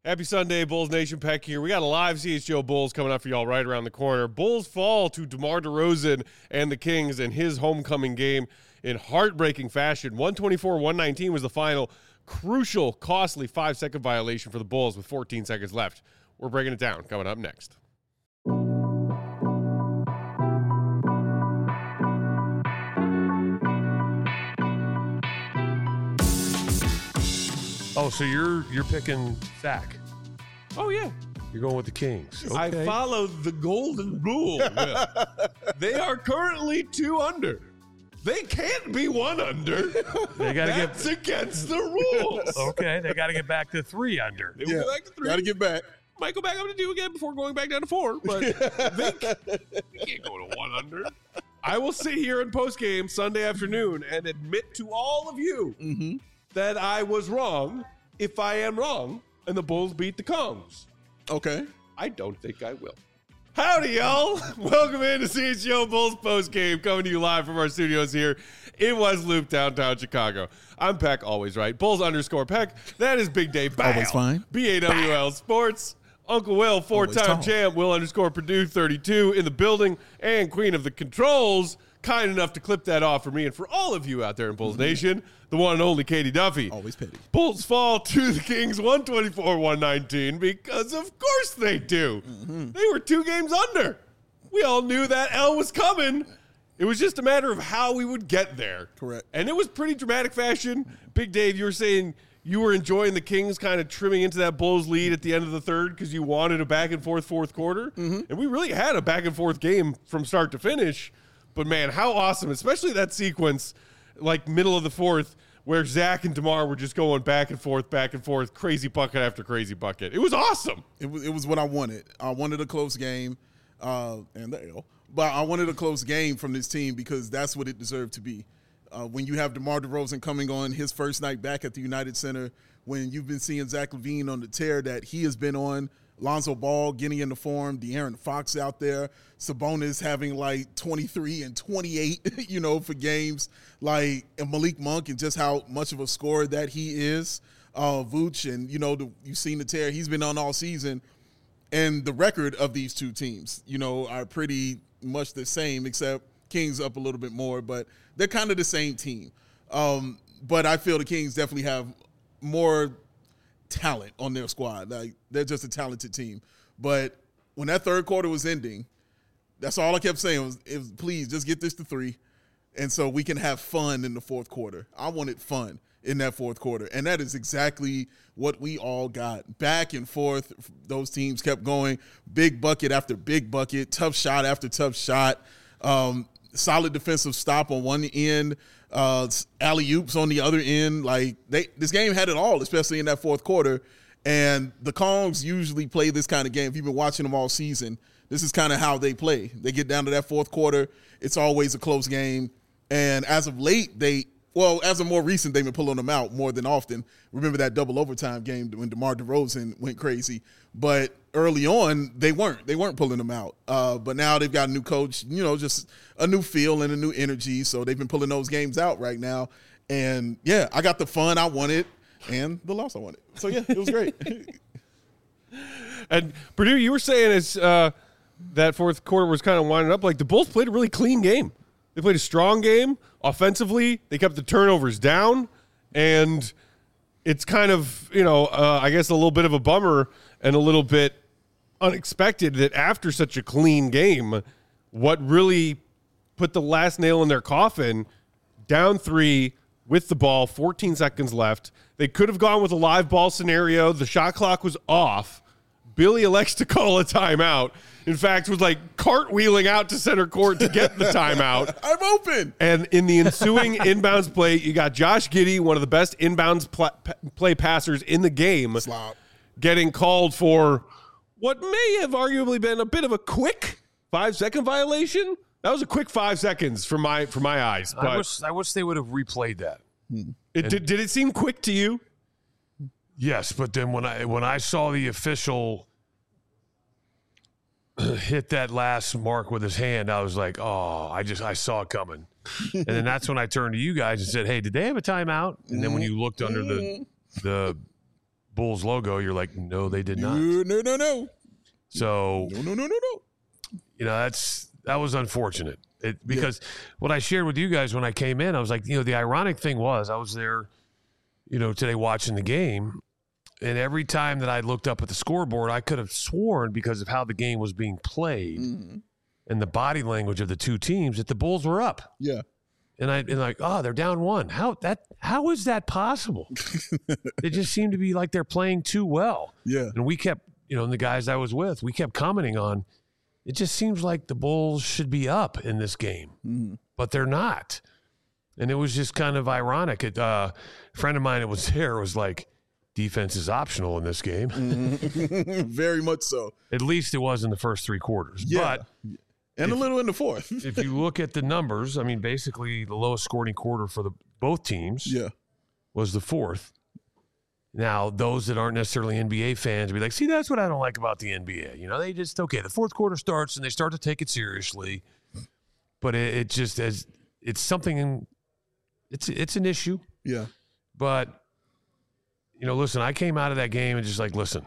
Happy Sunday, Bulls Nation. Peck here. We got a live CHGO Bulls coming up for y'all right around the corner. Bulls fall to DeMar DeRozan and the Kings in his homecoming game in heartbreaking fashion. 124-119 was the final. Crucial, costly 5-second violation for the Bulls with 14 seconds left. We're breaking it down coming up next. Oh, so you're picking Zach. Oh, yeah. You're going with the Kings. Okay. I followed the golden rule. They are currently 2 under. They can't be 1 under. They got to That's against the rules. Okay, they got to get back to 3 under. They will go back to 3. Got to get back. Might go back up to 2 again before going back down to 4. But they can't go to 1 under. I will sit here in postgame Sunday afternoon and admit to all of you that I was wrong if I am wrong and the Bulls beat the Kongs. Okay. I don't think I will. Howdy, y'all. Welcome into CHGO Bulls postgame, coming to you live from our studios here in West Loop, downtown Chicago. I'm Peck, always right. Bulls _ Peck. That is Big Dave Bawl. Always fine. BAWL Sports. Uncle Will, 4-time champ. Will _ Purdue 32 in the building. And Queen of the Controls, kind enough to clip that off for me and for all of you out there in Bulls Nation, the one and only Katie Duffy. Always petty. Bulls fall to the Kings 124-119 because of course they do. They were 2 games under. We all knew that L was coming. It was just a matter of how we would get there. Correct. And it was pretty dramatic fashion. Big Dave, you were saying you were enjoying the Kings kind of trimming into that Bulls lead at the end of the third because you wanted a back-and-forth fourth quarter. And we really had a back-and-forth game from start to finish. But, man, how awesome, especially that sequence, like middle of the fourth, where Zach and DeMar were just going back and forth, crazy bucket after crazy bucket. It was awesome. It was what I wanted. I wanted a close game, and there you go. But I wanted a close game from this team because that's what it deserved to be. When you have DeMar DeRozan coming on his first night back at the United Center, when you've been seeing Zach LaVine on the tear that he has been on, Lonzo Ball getting into form, De'Aaron Fox out there, Sabonis having like 23 and 28, for games, like and Malik Monk and just how much of a scorer that he is. Vooch and, you've seen the tear he's been on all season. And the record of these 2 teams, are pretty much the same, except Kings up a little bit more, but they're kind of the same team. But I feel the Kings definitely have more talent on their squad. Like, they're just a talented team. But when that third quarter was ending, that's all I kept saying was please just get this to 3, and so we can have fun in the fourth quarter. I wanted fun in that fourth quarter, and that is exactly what we all got. Back and forth, those teams kept going, big bucket after big bucket, tough shot after tough shot, solid defensive stop on one end, alley-oops on the other end. Like, this game had it all, especially in that fourth quarter. And the Kongs usually play this kind of game. If you've been watching them all season, this is kind of how they play. They get down to that fourth quarter, it's always a close game. And as of late, as of more recent, they've been pulling them out more than often. Remember that double overtime game when DeMar DeRozan went crazy. But early on, they weren't pulling them out. But now they've got a new coach, just a new feel and a new energy. So they've been pulling those games out right now. And, yeah, I got the fun I wanted and the loss I wanted. So, yeah, it was great. And, Purdue, you were saying it's that fourth quarter was kind of winding up. Like, the Bulls played a really clean game. They played a strong game offensively. They kept the turnovers down. And it's kind of, I guess a little bit of a bummer and a little bit unexpected that after such a clean game, what really put the last nail in their coffin, down 3 with the ball, 14 seconds left. They could have gone with a live ball scenario. The shot clock was off. Billy elects to call a timeout. In fact, was like cartwheeling out to center court to get the timeout. I'm open. And in the ensuing inbounds play, you got Josh Giddey, one of the best inbounds play passers in the game, getting called for what may have arguably been a bit of a quick 5-second violation. That was a quick 5 seconds from my eyes. But I wish they would have replayed that. Did it seem quick to you? Yes, but then when I saw the official hit that last mark with his hand, I was like, oh, I saw it coming. And then that's when I turned to you guys and said, hey, did they have a timeout? And then when you looked under the Bulls logo, you're like, no, they did not. No. So, No. that was unfortunate. Because what I shared with you guys when I came in, I was like, the ironic thing was I was there, today watching the game, and every time that I looked up at the scoreboard, I could have sworn because of how the game was being played and the body language of the two teams that the Bulls were up. Yeah. And they're down 1. How is that possible? It just seemed to be like they're playing too well. Yeah. And we kept, and the guys I was with, we kept commenting on, it just seems like the Bulls should be up in this game, but they're not. And it was just kind of ironic. A friend of mine that was there was like, defense is optional in this game. Very much so. At least it was in the first 3 quarters. Yeah. But and a little in the fourth. if you look at the numbers, I mean, basically the lowest scoring quarter for both teams was the fourth. Now, those that aren't necessarily NBA fans be like, see, that's what I don't like about the NBA. They just, the fourth quarter starts and they start to take it seriously. But it just, it's something, it's an issue. Yeah. But, listen, I came out of that game and just like, listen,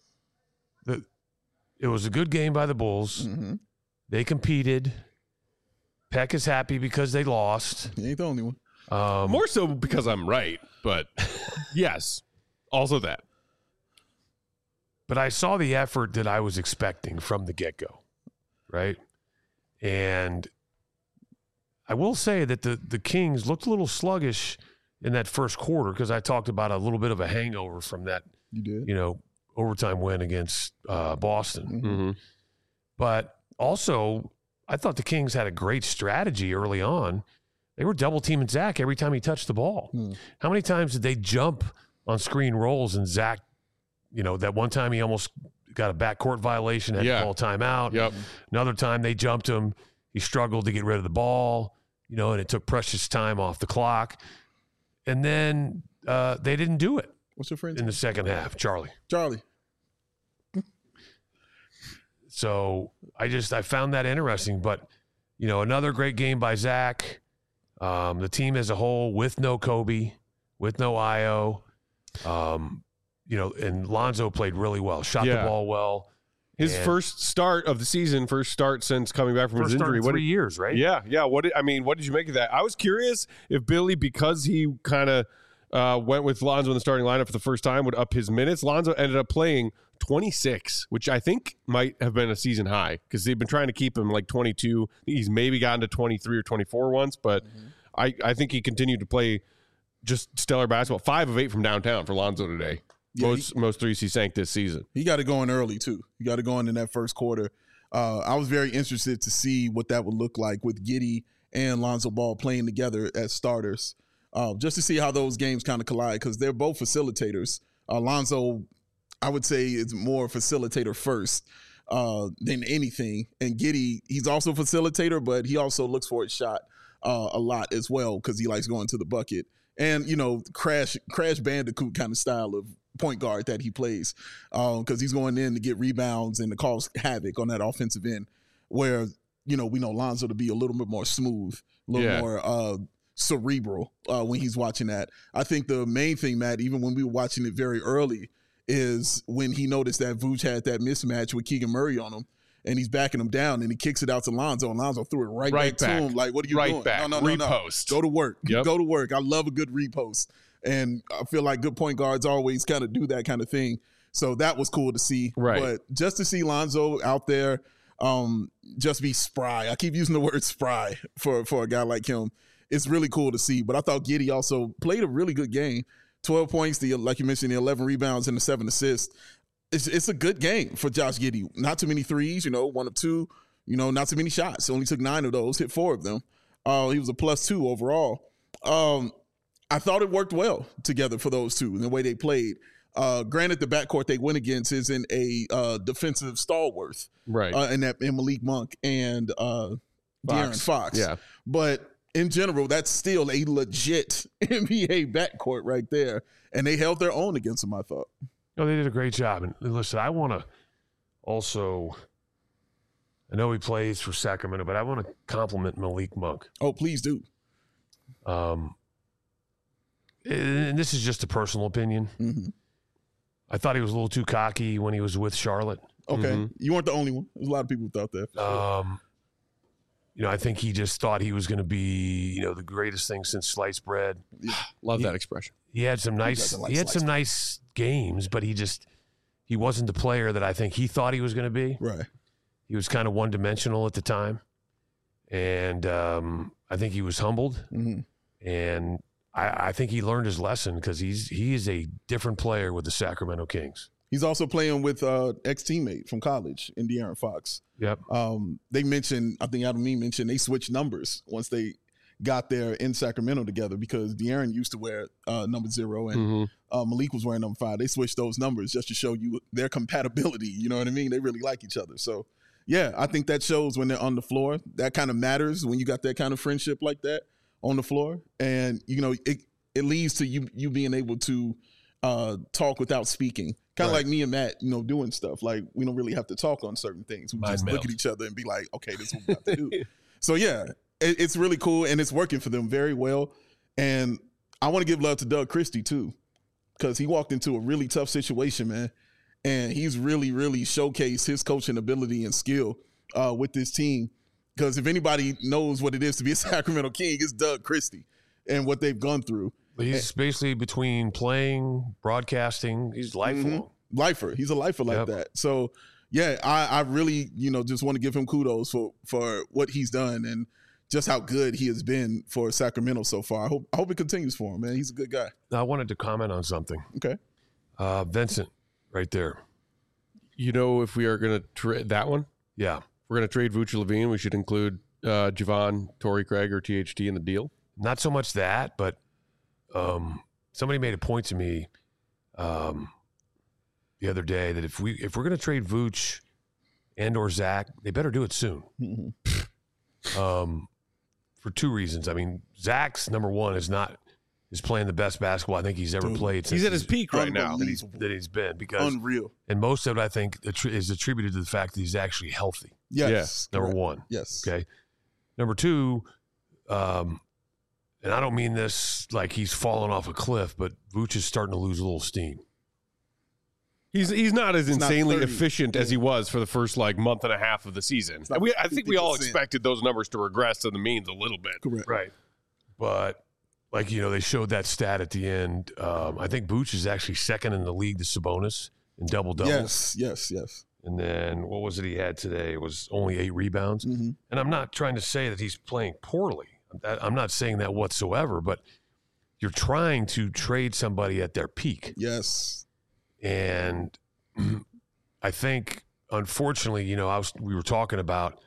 it was a good game by the Bulls. Mm-hmm. They competed. Peck is happy because they lost. He ain't the only one. More so because I'm right, but yes, also that. But I saw the effort that I was expecting from the get-go, right? And I will say that the Kings looked a little sluggish in that first quarter because I talked about a little bit of a hangover from that, You did? overtime win against Boston. Mm-hmm. But also, I thought the Kings had a great strategy early on. They were double-teaming Zach every time he touched the ball. How many times did they jump on screen rolls and Zach, that one time he almost got a backcourt violation, had to call a timeout. Yep. Another time they jumped him. He struggled to get rid of the ball, and it took precious time off the clock. And then they didn't do it What's your friend's in name? the second half, Charlie. Charlie. So I found that interesting. But, another great game by Zach. The team as a whole with no Kobe, with no Io. And Lonzo played really well, shot the ball well. His first start of the season, first start since coming back from his injury. In 3 years, right? Yeah. What did you make of that? I was curious if Billy, because he kind of went with Lonzo in the starting lineup for the first time, would up his minutes. Lonzo ended up playing 26, which I think might have been a season high because they've been trying to keep him like 22. He's maybe gotten to 23 or 24 once, but I think he continued to play just stellar basketball. 5 of 8 from downtown for Lonzo today. Yeah, most threes he sank this season. He got it going early, too. He got it going in that first quarter. I was very interested to see what that would look like with Giddey and Lonzo Ball playing together as starters, just to see how those games kind of collide because they're both facilitators. Lonzo, I would say, is more facilitator first than anything. And Giddey, he's also a facilitator, but he also looks for his shot a lot as well because he likes going to the bucket. And, Crash Bandicoot kind of style of point guard that he plays because he's going in to get rebounds and to cause havoc on that offensive end where, we know Lonzo to be a little bit more smooth, a little more cerebral when he's watching that. I think the main thing, Matt, even when we were watching it very early, is when he noticed that Vooch had that mismatch with Keegan Murray on him and he's backing him down and he kicks it out to Lonzo and Lonzo threw it right back to him. Like, what are you doing? Back. No. Repost. Go to work. Yep. Go to work. I love a good repost. And I feel like good point guards always kind of do that kind of thing. So that was cool to see. Right. But just to see Lonzo out there just be spry. I keep using the word spry for a guy like him. It's really cool to see. But I thought Giddey also played a really good game. 12 points, like you mentioned, the 11 rebounds and the 7 assists. It's a good game for Josh Giddey. Not too many threes, 1 of 2. Not too many shots. Only took 9 of those, hit 4 of them. He was a +2 overall. I thought it worked well together for those two in the way they played. Granted, the backcourt they went against isn't a defensive stalwart, Right. in Malik Monk and De'Aaron Fox. Yeah. But in general, that's still a legit NBA backcourt right there, and they held their own against them, I thought. No, they did a great job. And listen, I want to also, I know he plays for Sacramento, but I want to compliment Malik Monk. Oh, please do. And this is just a personal opinion. Mm-hmm. I thought he was a little too cocky when he was with Charlotte. Okay. You weren't the only one. There's a lot of people who thought that. I think he just thought he was going to be, the greatest thing since sliced bread. Love that expression. He had some nice games, but he wasn't the player that I think he thought he was going to be. Right. He was kind of one-dimensional at the time. And I think he was humbled. Mm-hmm. And I think he learned his lesson because he is a different player with the Sacramento Kings. He's also playing with ex-teammate from college, De'Aaron Fox. Yep. They mentioned, I think Adam Mee mentioned, they switched numbers once they got there in Sacramento together because De'Aaron used to wear number 0 and Malik was wearing number 5. They switched those numbers just to show you their compatibility. You know what I mean? They really like each other. So, yeah, I think that shows when they're on the floor. That kind of matters when you got that kind of friendship like that on the floor. And, it leads to you being able to talk without speaking. Kind of like me and Matt, doing stuff. Like, we don't really have to talk on certain things. We just look at each other and be like, okay, this is what we have to do. So, yeah, it's really cool, and it's working for them very well. And I want to give love to Doug Christie, too, because he walked into a really tough situation, man. And he's really, really showcased his coaching ability and skill with this team. Because if anybody knows what it is to be a Sacramento King, it's Doug Christie and what they've gone through. He's basically between playing, broadcasting. He's lifelong. Lifer. He's a lifer like that. So, yeah, I really, just want to give him kudos for what he's done and just how good he has been for Sacramento so far. I hope it continues for him, man. He's a good guy. I wanted to comment on something. Okay. Vincent, right there. If we are going to trade that one? Yeah. If we're going to trade Vooch Levine, we should include Javon, Torrey Craig, or THT in the deal? Not so much that, but somebody made a point to me the other day that if we're going to trade Vooch and or Zach, they better do it soon. For two reasons. I mean, Zach's number one is playing the best basketball I think he's ever played. He's at his peak right now that he's been because unreal. And most of it I think is attributed to the fact that he's actually healthy. Yes. Number one. Yes. Okay. Number two, and I don't mean this like he's falling off a cliff, but Vooch is starting to lose a little steam. He's not as insanely efficient as he was for the first month and a half of the season. I think we all expected those numbers to regress to the means a little bit. Correct. Right. But they showed that stat at the end. I think Vooch is actually second in the league to Sabonis in double-doubles. Yes. And then what was it he had today? It was only 8 rebounds. Mm-hmm. And I'm not trying to say that he's playing poorly. I'm not saying that whatsoever, but you're trying to trade somebody at their peak. Yes. And I think, unfortunately, we were talking about,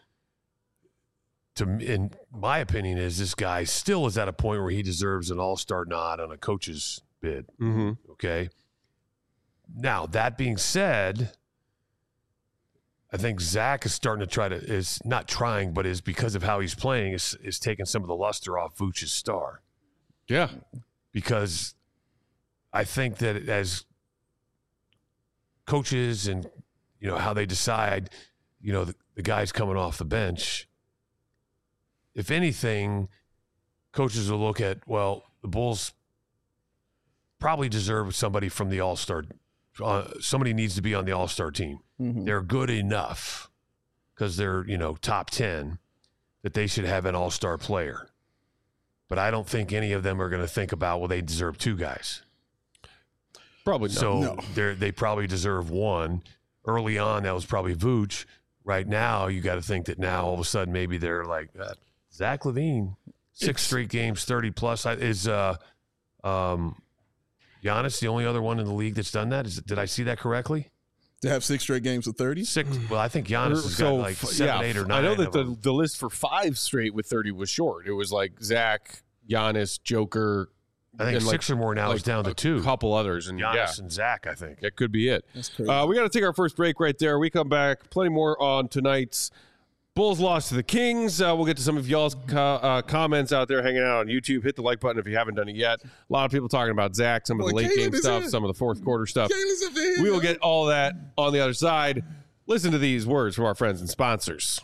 in my opinion, is this guy still is at a point where he deserves an all-star nod on a coach's bid. Mm-hmm. Okay. Now, that being said, I think Zach is starting to is not trying, but is because of how he's playing, is taking some of the luster off Vooch's star. Yeah. Because I think that as coaches and, how they decide, the guys coming off the bench, if anything, coaches will look at, well, the Bulls probably deserve somebody from the All-Star. Somebody needs to be on the All-Star team. Mm-hmm. They're good enough because they're, top 10 that they should have an All-Star player. But I don't think any of them are going to think about, well, they deserve 2 guys. Probably not. So they probably deserve 1. Early on, that was probably Vooch. Right now, you got to think that now all of a sudden maybe they're like, Zach LaVine, 6 straight games, 30-plus. Is Giannis the only other one in the league that's done that? Did I see that correctly? To have 6 straight games of 30? 6. Well, I think Giannis has got 7, 8, or 9. I know that the list for 5 straight with 30 was short. It was Zach, Giannis, Joker. I think 6 or more now is down to 2. A couple others. And Giannis and Zach, I think. That could be it. That's crazy. We got to take our first break right there. We come back. Plenty more on tonight's Bulls loss to the Kings. We'll get to some of y'all's comments out there hanging out on YouTube. Hit the like button if you haven't done it yet. A lot of people talking about Zach, some of the late game stuff, some of the fourth quarter stuff. We will get all that on the other side. Listen to these words from our friends and sponsors.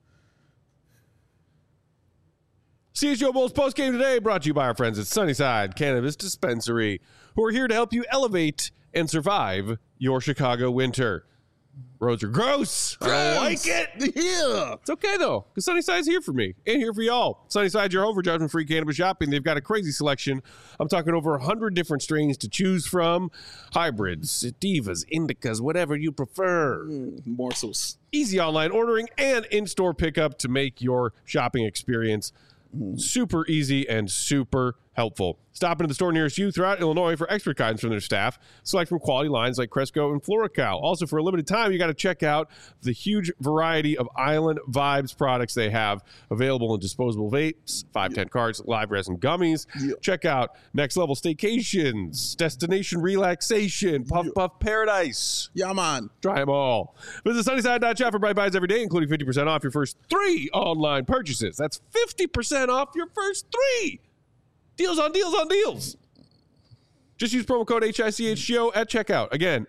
CHGO Bulls postgame today brought to you by our friends at Sunnyside Cannabis Dispensary, who are here to help you elevate and survive your Chicago winter. Roads are gross. I don't like it. Yeah. It's okay, though, because Sunnyside's here for me and here for y'all. Sunnyside's your home for judgment-free cannabis shopping. They've got a crazy selection. I'm talking over 100 different strains to choose from. Hybrids, sativas, indicas, whatever you prefer. Morsels. Easy online ordering and in-store pickup to make your shopping experience super easy and super helpful. Stop into the store nearest you throughout Illinois for expert guidance from their staff. Select from quality lines like Cresco and FloraCal. Also, for a limited time, you got to check out the huge variety of Island Vibes products they have available in disposable vapes, 510 carts, live resin gummies. Check out Next Level Staycations, Destination Relaxation, Puff Puff Paradise. Yeah, man. Try them all. Visit Sunnyside.shop for bright buys every day, including 50% off your first 3 online purchases. That's 50% off your first 3. Deals on deals on deals. Just use promo code HICHGO at checkout. Again,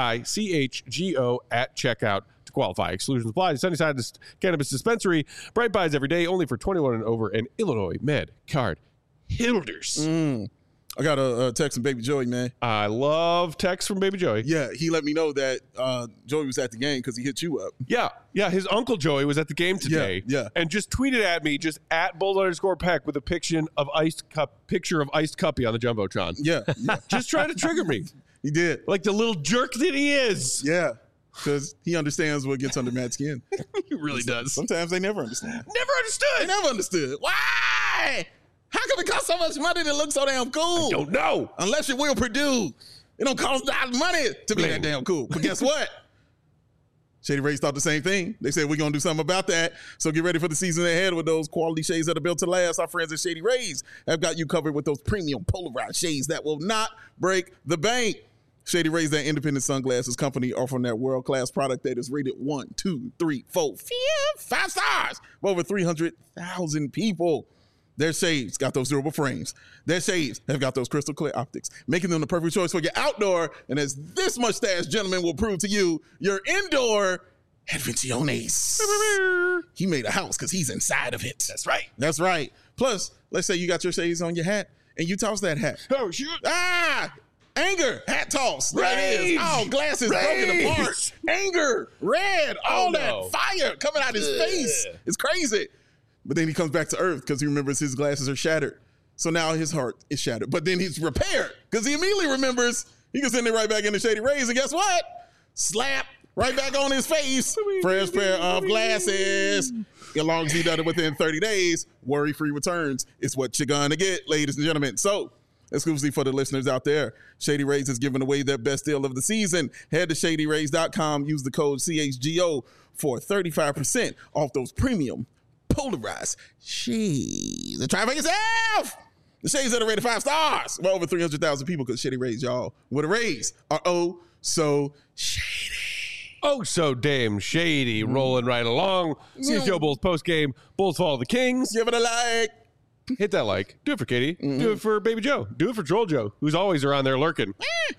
HICHGO at checkout to qualify. Exclusions apply. Sunnyside Cannabis Dispensary. Bright buys every day, only for 21 and over, and Illinois Med Card holders. I got a text from Baby Joey, man. I love texts from Baby Joey. Yeah, he let me know that Joey was at the game because he hit you up. Yeah. His uncle Joey was at the game today. Yeah. And just tweeted at me, just at @Bulls_Peck with a picture of iced cuppy on the Jumbotron. Yeah. Just trying to trigger me. He did. Like the little jerk that he is. Yeah, because he understands what gets under Matt's skin. He really does. Sometimes they never understand. Never understood. They never understood. Why? How come it cost so much money to look so damn cool? I don't know. Unless you're Will Purdue. It don't cost that money to be that damn cool. But guess what? Shady Rays thought the same thing. They said, we're going to do something about that. So get ready for the season ahead with those quality shades that are built to last. Our friends at Shady Rays have got you covered with those premium polarized shades that will not break the bank. Shady Rays, that independent sunglasses company, offering that world-class product that is rated 1, 2, 3, 4, 5 stars for over 300,000 people. Their shades got those durable frames. Their shades have got those crystal clear optics, making them the perfect choice for your outdoor. And as this mustache gentleman will prove to you, your indoor adventiones. He made a house because he's inside of it. That's right. That's right. Plus, let's say you got your shades on your hat and you toss that hat. Oh, shoot. Anger, hat toss. There it is. Oh, glasses broken apart. Anger, red, all that fire coming out his face. It's crazy. But then he comes back to earth because he remembers his glasses are shattered. So now his heart is shattered. But then he's repaired because he immediately remembers he can send it right back into Shady Rays. And guess what? Slap right back on his face. Fresh pair of glasses. As long as he does it within 30 days, worry-free returns is what you're going to get, ladies and gentlemen. So, exclusively for the listeners out there, Shady Rays is giving away their best deal of the season. Head to ShadyRays.com. Use the code CHGO for 35% off those premium polarized shades. And try it for yourself. The shades that are rated 5 stars. Well, over 300,000 people because Shady Rays, y'all, with a raise are oh so shady. Oh, so damn shady. Rolling right along. CHGO Bulls postgame. Bulls follow the Kings. Give it a like. Hit that like. Do it for Katie. Do it for Baby Joe. Do it for Troll Joe, who's always around there lurking.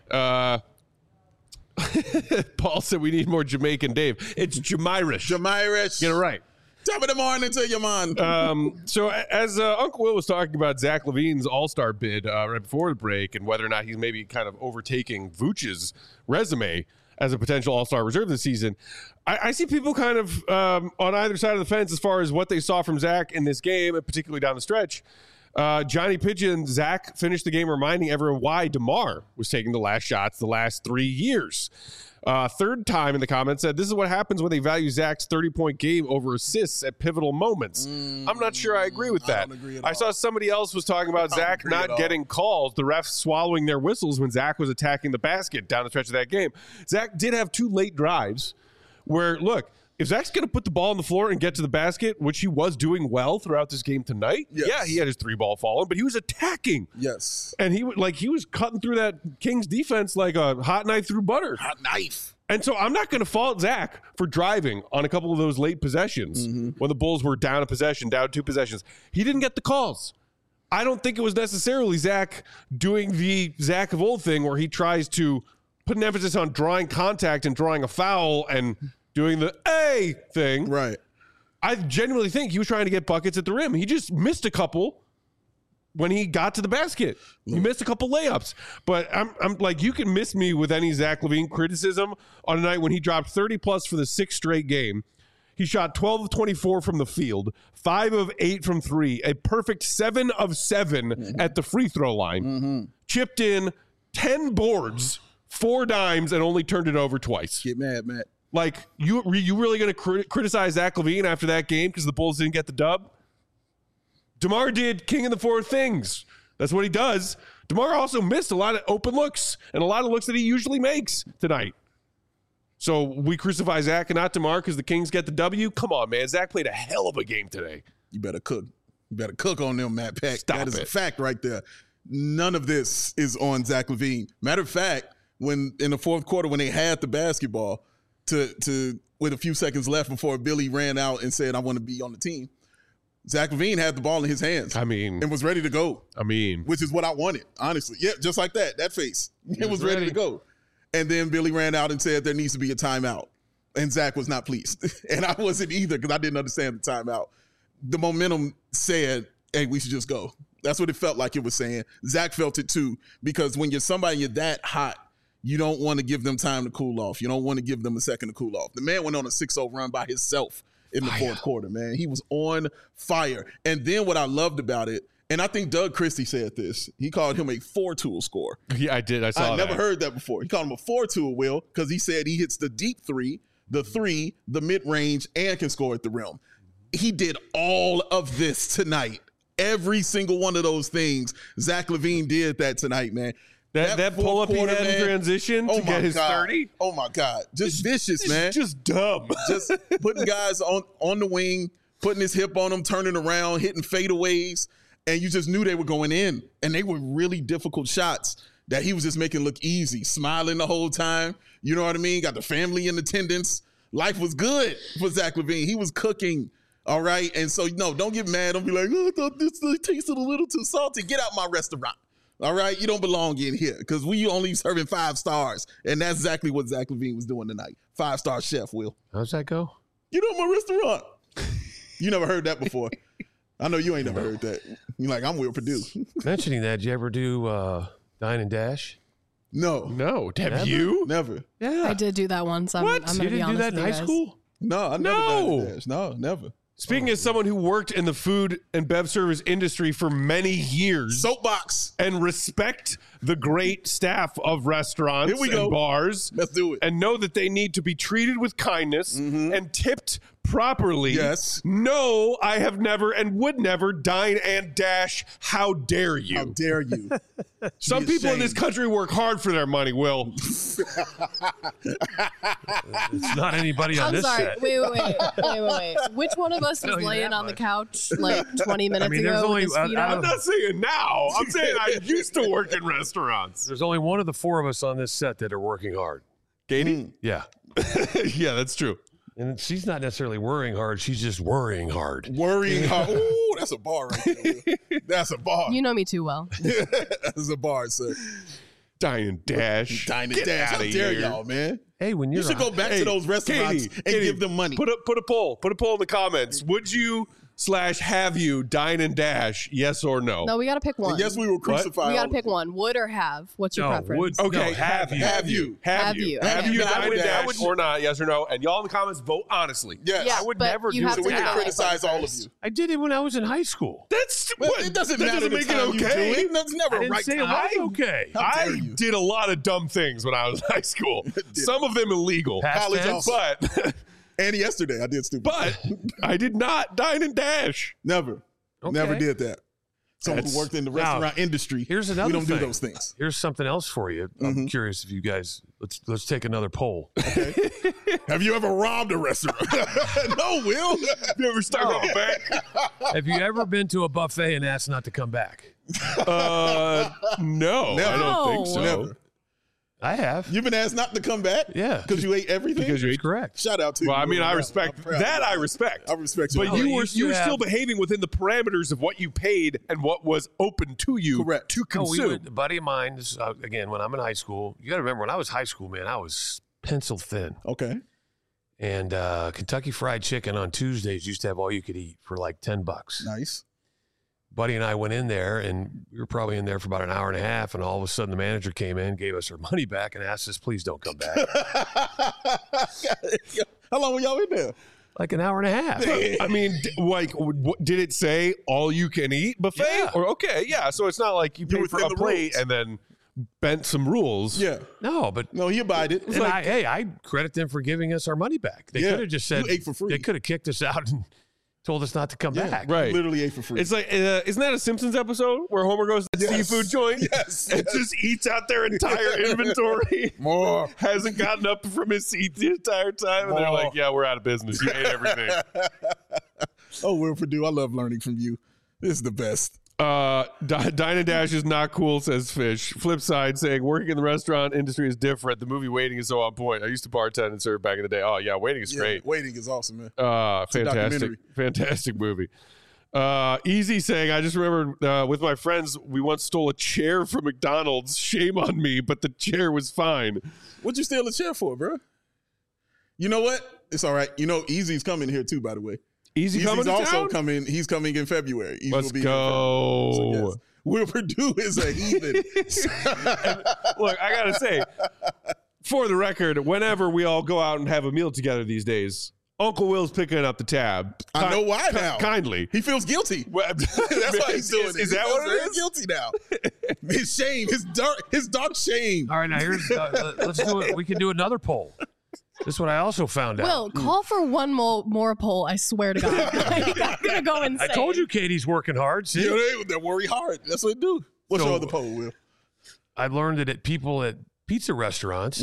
Paul said we need more Jamaican Dave. It's Jamirish. Jamirish. Get it right. Top of the morning to you, man. So as Uncle Will was talking about Zach LaVine's All-Star bid right before the break and whether or not he's maybe kind of overtaking Vooch's resume as a potential All-Star reserve this season, I see people kind of on either side of the fence as far as what they saw from Zach in this game, and particularly down the stretch. Johnny Pigeon, Zach finished the game reminding everyone why DeMar was taking the last shots the last 3 years. Third time in the comments said, this is what happens when they value Zach's 30-point game over assists at pivotal moments. I'm not sure I agree with that. I don't agree at all. I saw somebody else was talking about Zach not getting calls, the refs swallowing their whistles when Zach was attacking the basket down the stretch of that game. Zach did have 2 late drives where, look, if Zach's going to put the ball on the floor and get to the basket, which he was doing well throughout this game tonight, yeah, he had his 3-ball falling, but he was attacking. Yes. And he was cutting through that Kings defense like a hot knife through butter. Hot knife. And so I'm not going to fault Zach for driving on a couple of those late possessions when the Bulls were down a possession, down 2 possessions. He didn't get the calls. I don't think it was necessarily Zach doing the Zach of old thing where he tries to put an emphasis on drawing contact and drawing a foul and doing the A thing. Right. I genuinely think he was trying to get buckets at the rim. He just missed a couple when he got to the basket. He missed a couple layups. But I'm like, you can miss me with any Zach LaVine criticism on a night when he dropped 30-plus for the 6th straight game. He shot 12 of 24 from the field, 5 of 8 from 3, a perfect 7 of 7 at the free throw line, chipped in 10 boards, 4 dimes, and only turned it over twice. Get mad, Matt. Like, you really going to criticize Zach LaVine after that game because the Bulls didn't get the dub? DeMar did king of the 4 things. That's what he does. DeMar also missed a lot of open looks and a lot of looks that he usually makes tonight. So we crucify Zach and not DeMar because the Kings get the W? Come on, man. Zach played a hell of a game today. You better cook. You better cook on them, Matt Peck. Stop that is it. a fact right there. None of this is on Zach LaVine. Matter of fact, when in the fourth quarter when they had the basketball to with a few seconds left before Billy ran out and said, I want to be on the team, Zach LaVine had the ball in his hands. And was ready to go. Which is what I wanted, honestly. Yeah, just like that face. It was ready to go. And then Billy ran out and said there needs to be a timeout. And Zach was not pleased. And I wasn't either because I didn't understand the timeout. The momentum said, hey, we should just go. That's what it felt like it was saying. Zach felt it too, because when you're somebody you're that hot, you don't want to give them time to cool off. You don't want to give them a second to cool off. The man went on a 6-0 run by himself in the fourth quarter, man. He was on fire. And then what I loved about it, and I think Doug Christie said this, he called him a 4-tool scorer. Yeah, I did. I saw that. I never heard that before. He called him a 4-tool, Will, because he said he hits the deep 3, the mid-range, and can score at the rim. He did all of this tonight. Every single one of those things, Zach LaVine did that tonight, man. That pull-up he had in transition to get his 30? Oh, my God. Just vicious, man. Just dumb. Just putting guys on the wing, putting his hip on them, turning around, hitting fadeaways, and you just knew they were going in. And they were really difficult shots that he was just making look easy, smiling the whole time. You know what I mean? Got the family in attendance. Life was good for Zach LaVine. He was cooking, all right? And so, no, don't get mad. Don't be like, oh, I thought this tasted a little too salty. Get out my restaurant. All right, you don't belong in here because we only serving 5 stars, and that's exactly what Zach LaVine was doing tonight. 5-star chef, Will. How's that go? You know my restaurant. You never heard that before. I know you ain't never heard that. You're like, I'm Will Purdue. Mentioning that, did you ever do Dine and Dash? No. Have you? Never. Yeah, I did do that once. I'm what? gonna You be didn't do honest that in with high you guys. school? No, I never done Dash. No, never. Speaking as someone who worked in the food and bev service industry for many years. Soapbox. And respect the great staff of restaurants Here we and go. bars. Let's do it. And know that they need to be treated with kindness and tipped properly. Yes. No, I have never and would never dine and dash. How dare you? How dare you? Some Be people in this ashamed. country work hard for their money, Will. It's not anybody on I'm this sorry. set. Wait. Which one of us was Tell you laying that on the much. couch like 20 minutes mean, there's ago only- with his feet I up? I'm not saying now. I'm saying I used to work in restaurants. There's only one of the 4 of us on this set that are working hard. Katie? Yeah. Yeah, that's true. And she's not necessarily worrying hard. She's just worrying hard. Worrying hard. Ooh, that's a bar right there. Will. That's a bar. You know me too well. That's a bar, sir. Dine and dash. Dine and Get Dash. How outta dare here. y'all, man? Hey, when You you're should go back to those restaurants and give them money. Put a poll. Put a poll in the comments. Would you /have you dine and dash? Yes or no? No, we got to pick one. Yes, we will crucify. we got all to pick one. Would or have? What's your No, preference? would- Okay, No, have you. Have you. Have you. Okay. Have you I dine would- and I dash would- or not? Yes or no? And y'all in the comments vote honestly. Yes. Yeah, I would but never you do have it to So we do can the right criticize thing all of first. you. I did it when I was in high school. That's Well, what it doesn't that matter doesn't the make time it you do okay. it. That's never I didn't right say it time. was okay. How dare I you. did a lot of dumb things when I was in high school. Some of them illegal. Past College tense? also. But And yesterday I did stupid. but I did not dine and dash. Never. Okay. Never did that. Someone who worked in the Now, restaurant industry. Here's another We don't thing. do those things. Here's something else for you. I'm curious if you guys let's take another poll. Have you ever robbed a restaurant? No, Will. You ever start off back? Have you ever been to a buffet and asked not to come back? No, Never. I don't think so. Never. I have. You've been asked not to come back? Yeah. Because you ate everything? Because you That's ate. correct. Shout out to you. Well, I mean, I I'm respect proud. that. I respect. I respect you. But Oh, you it were used to you were still have- behaving within the parameters of what you paid and what was open to you Correct. to Oh, we consume. would, a buddy of mine, this, again, when I'm in high school, you got to remember when I was high school, man, I was pencil thin. Okay. And Kentucky Fried Chicken on Tuesdays used to have all you could eat for like $10. Nice. Buddy and I went in there, and we were probably in there for about an hour and a half, and all of a sudden the manager came in, gave us our money back, and asked us, please don't come back. How long were y'all in there? Like an hour and a half. I mean, did it say all you can eat buffet? Yeah. Or okay, yeah. So it's not like you paid for a plate and then bent some rules. Yeah. No, but he abided. and I credit them for giving us our money back. They could have just said you ate for free. They could have kicked us out and told us not to come back. Right. Literally ate for free. It's like, isn't that a Simpsons episode where Homer goes to the seafood joint and just eats out their entire inventory? More. Hasn't gotten up from his seat the entire time. And they're like, yeah, we're out of business. You ate everything. Oh, Will Purdue, I love learning from you. This is the best. Dine and Dash is not cool, says Fish. Flip side saying working in the restaurant industry is different. The movie Waiting is so on point. I used to bartend and serve back in the day. Oh yeah, Waiting is great. Waiting is awesome, man. Fantastic movie. Easy saying, I just remember with my friends, we once stole a chair from McDonald's. Shame on me, but the chair was fine. What'd you steal a chair for, bro? You know what? It's all right. You know, Easy's coming here too, by the way. Easy's also coming. He's coming in February. Easy Let's go. So, yes. Will Purdue is a heathen. Look, I gotta say, for the record, whenever we all go out and have a meal together these days, Uncle Will's picking up the tab. I know why now. Kindly. He feels guilty. That's why he's doing it. Is that what it is? Guilty now. His shame. His dark shame. All right, now here's let's do it. We can do another poll. This is what I also found out. Will, call for one more poll. I swear to God. I'm gonna go insane. I told you Katie's working hard. See? Yeah, they worry hard. That's what they do. What's your other poll, Will? I've learned that people at pizza restaurants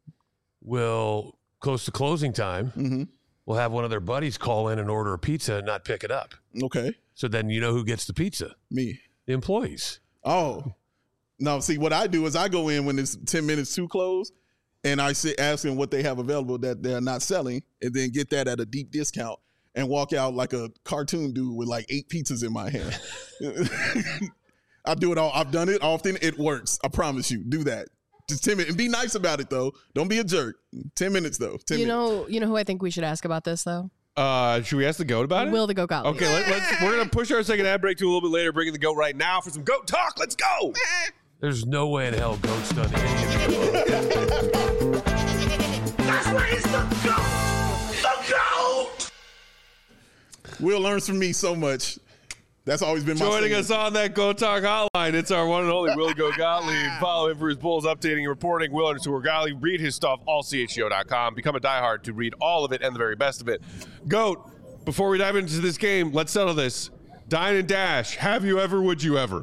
will, close to closing time, will have one of their buddies call in and order a pizza and not pick it up. Okay. So then you know who gets the pizza? Me. The employees. Oh. No, see, what I do is I go in when it's 10 minutes to close, and I ask them what they have available that they're not selling, and then get that at a deep discount and walk out like a cartoon dude with like 8 pizzas in my hand. I do it all. I've done it often. It works. I promise you. Do that. Just 10 minutes. And be nice about it, though. Don't be a jerk. 10 minutes, though. 10 minutes. You know who I think we should ask about this, though? Should we ask the GOAT about it? Will the GOAT Gottlieb. Okay, we're going to push our second ad break to a little bit later, bringing the GOAT right now for some GOAT talk. Let's go. There's no way in hell GOAT's done any of it. That's why he's the GOAT! The GOAT! Will learns from me so much. That's always been my Joining saying. us on that GOAT Talk hotline, it's our one and only Will GOAT Gottlieb. Follow him for his Bulls updating and reporting. Will _ Gottlieb. Read his stuff, allchgo.com. Become a diehard to read all of it and the very best of it. GOAT, before we dive into this game, let's settle this. Dine and Dash, have you ever, would you ever?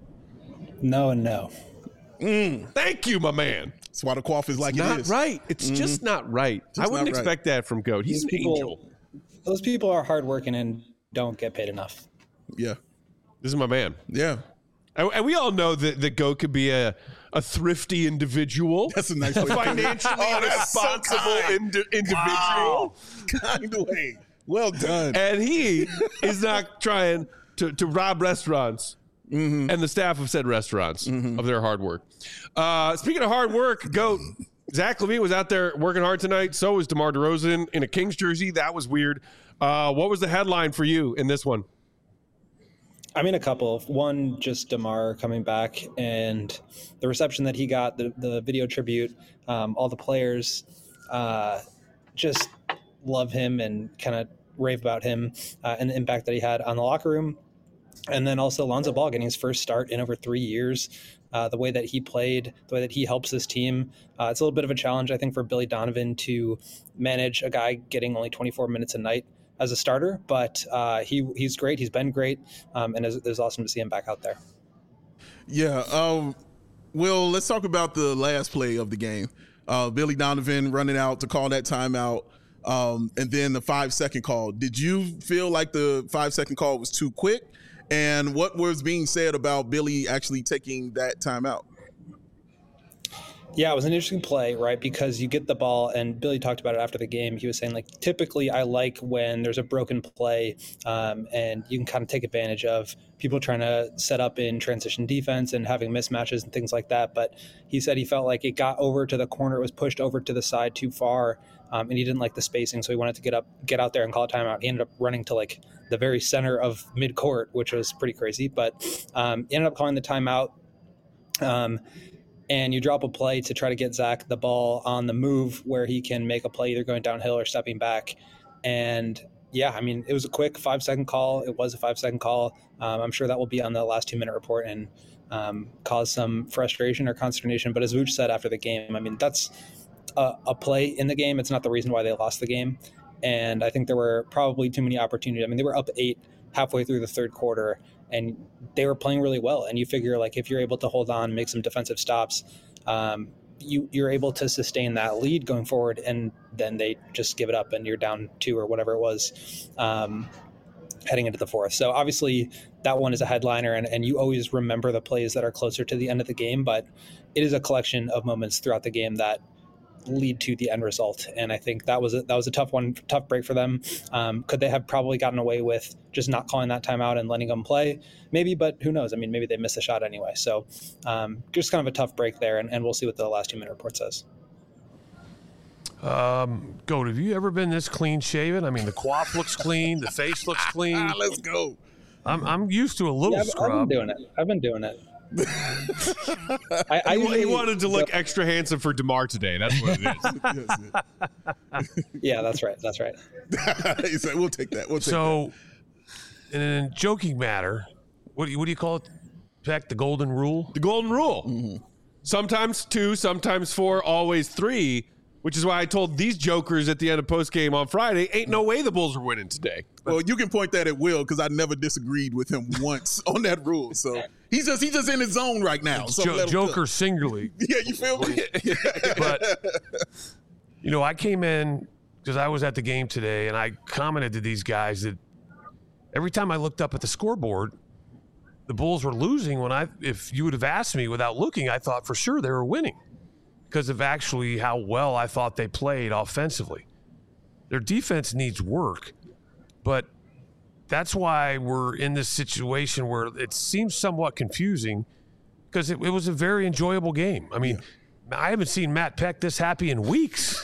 No and no. Thank you, my man. That's why the quaff is like it Not is. right. It's just not right. I wouldn't expect that from GOAT. He's an angel. Those people are hardworking and don't get paid enough. Yeah. This is my man. Yeah. And we all know that GOAT could be a thrifty individual. That's a nice way. Financially responsible individual. Wow. Kind way. Well done. And he is not trying to rob restaurants and the staff of said restaurants of their hard work. Speaking of hard work, GOAT, Zach LaVine was out there working hard tonight. So was DeMar DeRozan in a Kings jersey. That was weird. What was the headline for you in this one? I mean, a couple. One, just DeMar coming back and the reception that he got, the video tribute, all the players just love him and kind of rave about him and the impact that he had on the locker room. And then also Lonzo Ball getting his first start in over 3 years. The way that he played, the way that he helps his team. It's a little bit of a challenge, I think, for Billy Donovan to manage a guy getting only 24 minutes a night as a starter, but he's great. He's been great, and it's awesome to see him back out there. Yeah. Will, let's talk about the last play of the game. Billy Donovan running out to call that timeout, and then the 5-second call. Did you feel like the 5-second call was too quick? And what was being said about Billy actually taking that timeout? Yeah, it was an interesting play, right? Because you get the ball, and Billy talked about it after the game. He was saying, like, typically I like when there's a broken play and you can kind of take advantage of people trying to set up in transition defense and having mismatches and things like that. But he said he felt like it got over to the corner. It was pushed over to the side too far, and he didn't like the spacing, so he wanted to get out there and call a timeout. He ended up running to like the very center of midcourt, which was pretty crazy, but he ended up calling the timeout. And you drop a play to try to get Zach the ball on the move where he can make a play either going downhill or stepping back. And yeah, I mean, it was a quick 5-second call. It was a 5-second call. I'm sure that will be on the last 2-minute report and cause some frustration or consternation. But as Vooch said after the game, I mean, that's a play in the game. It's not the reason why they lost the game. And I think there were probably too many opportunities. I mean, they were up 8 halfway through the third quarter, and they were playing really well. And you figure, like, if you're able to hold on, make some defensive stops, you're able to sustain that lead going forward, and then they just give it up and you're down 2 or whatever it was heading into the fourth. So obviously that one is a headliner, and you always remember the plays that are closer to the end of the game, but it is a collection of moments throughout the game that lead to the end result. And I think that was a tough break for them. Could they have probably gotten away with just not calling that timeout and letting them play? Maybe, but who knows? I mean, maybe they missed a shot anyway. So just kind of a tough break there, and we'll see what the last 2-minute report says. Goat, have you ever been this clean shaven? I mean, the coif looks clean, the face looks clean. Let's go. I'm used to a little scrub. I've been doing it. He wanted to look extra handsome for DeMar today. That's what it is. Yeah, that's right. He said, "We'll take that." So, in a joking matter, what do you call it? Peck, the golden rule. The golden rule. Mm-hmm. Sometimes 2, sometimes 4, always 3. Which is why I told these jokers at the end of postgame on Friday, ain't no way the Bulls are winning today. Well, you can point that at Will because I never disagreed with him once on that rule. So he's just in his zone right now. So Joker singularly. Yeah, you feel me? But, I came in because I was at the game today, and I commented to these guys that every time I looked up at the scoreboard, the Bulls were losing. If you would have asked me without looking, I thought for sure they were winning, because of actually how well I thought they played offensively. Their defense needs work, but that's why we're in this situation where it seems somewhat confusing, because it was a very enjoyable game. I mean, I haven't seen Matt Peck this happy in weeks.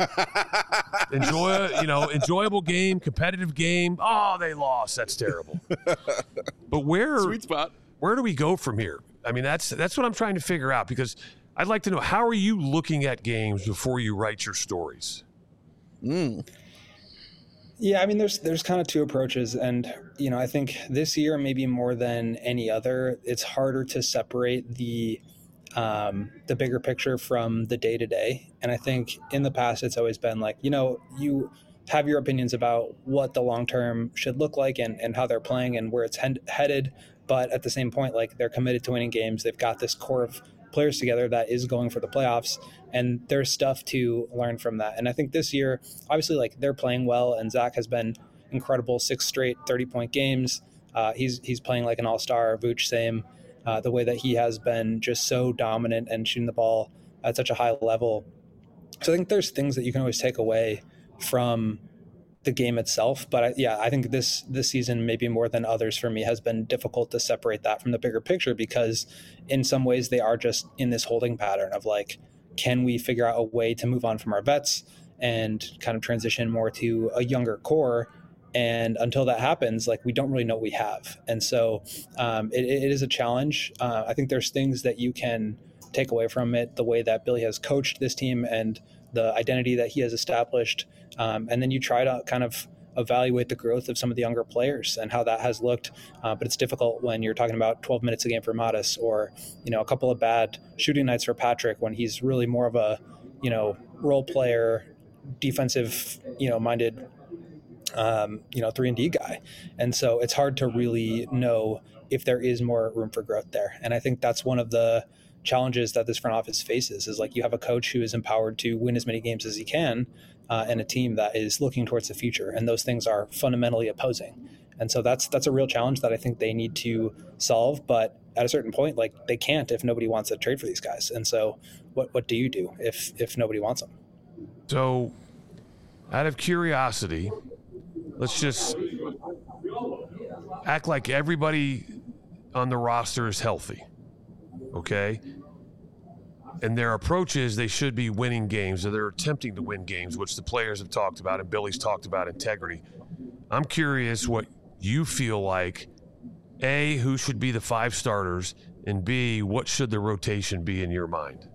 Enjoyable game, competitive game. Oh, they lost. That's terrible. But sweet spot. Where do we go from here? I mean, that's what I'm trying to figure out, because I'd like to know, how are you looking at games before you write your stories? Yeah, I mean, there's kind of 2 approaches. And, I think this year, maybe more than any other, it's harder to separate the bigger picture from the day-to-day. And I think in the past, it's always been like, you have your opinions about what the long-term should look like and how they're playing and where it's headed. But at the same point, like, they're committed to winning games. They've got this core of players together that is going for the playoffs, and there's stuff to learn from that. And I think this year, obviously, like, they're playing well, and Zach has been incredible, 6 straight 30-point games. He's playing like an all-star. Vooch, same. The way that he has been just so dominant and shooting the ball at such a high level. So I think there's things that you can always take away from the game itself. But I think this season, maybe more than others for me, has been difficult to separate that from the bigger picture, because in some ways they are just in this holding pattern of like, can we figure out a way to move on from our vets and kind of transition more to a younger core? And until that happens, like, we don't really know what we have. And so it is a challenge. I think there's things that you can take away from it, the way that Billy has coached this team and the identity that he has established. And then you try to kind of evaluate the growth of some of the younger players and how that has looked. But it's difficult when you're talking about 12 minutes a game for Modest, or, a couple of bad shooting nights for Patrick, when he's really more of a, role player, defensive, minded, 3-and-D guy. And so it's hard to really know if there is more room for growth there. And I think that's one of the challenges that this front office faces, is like, you have a coach who is empowered to win as many games as he can, and a team that is looking towards the future. And those things are fundamentally opposing. And so that's a real challenge that I think they need to solve. But at a certain point, like, they can't if nobody wants to trade for these guys. And so what do you do if nobody wants them? So out of curiosity, let's just act like everybody on the roster is healthy. Okay. and their approach is they should be winning games, or they're attempting to win games, which the players have talked about, and Billy's talked about integrity. I'm curious what you feel like, A, who should be the 5 starters, and B, what should the rotation be in your mind?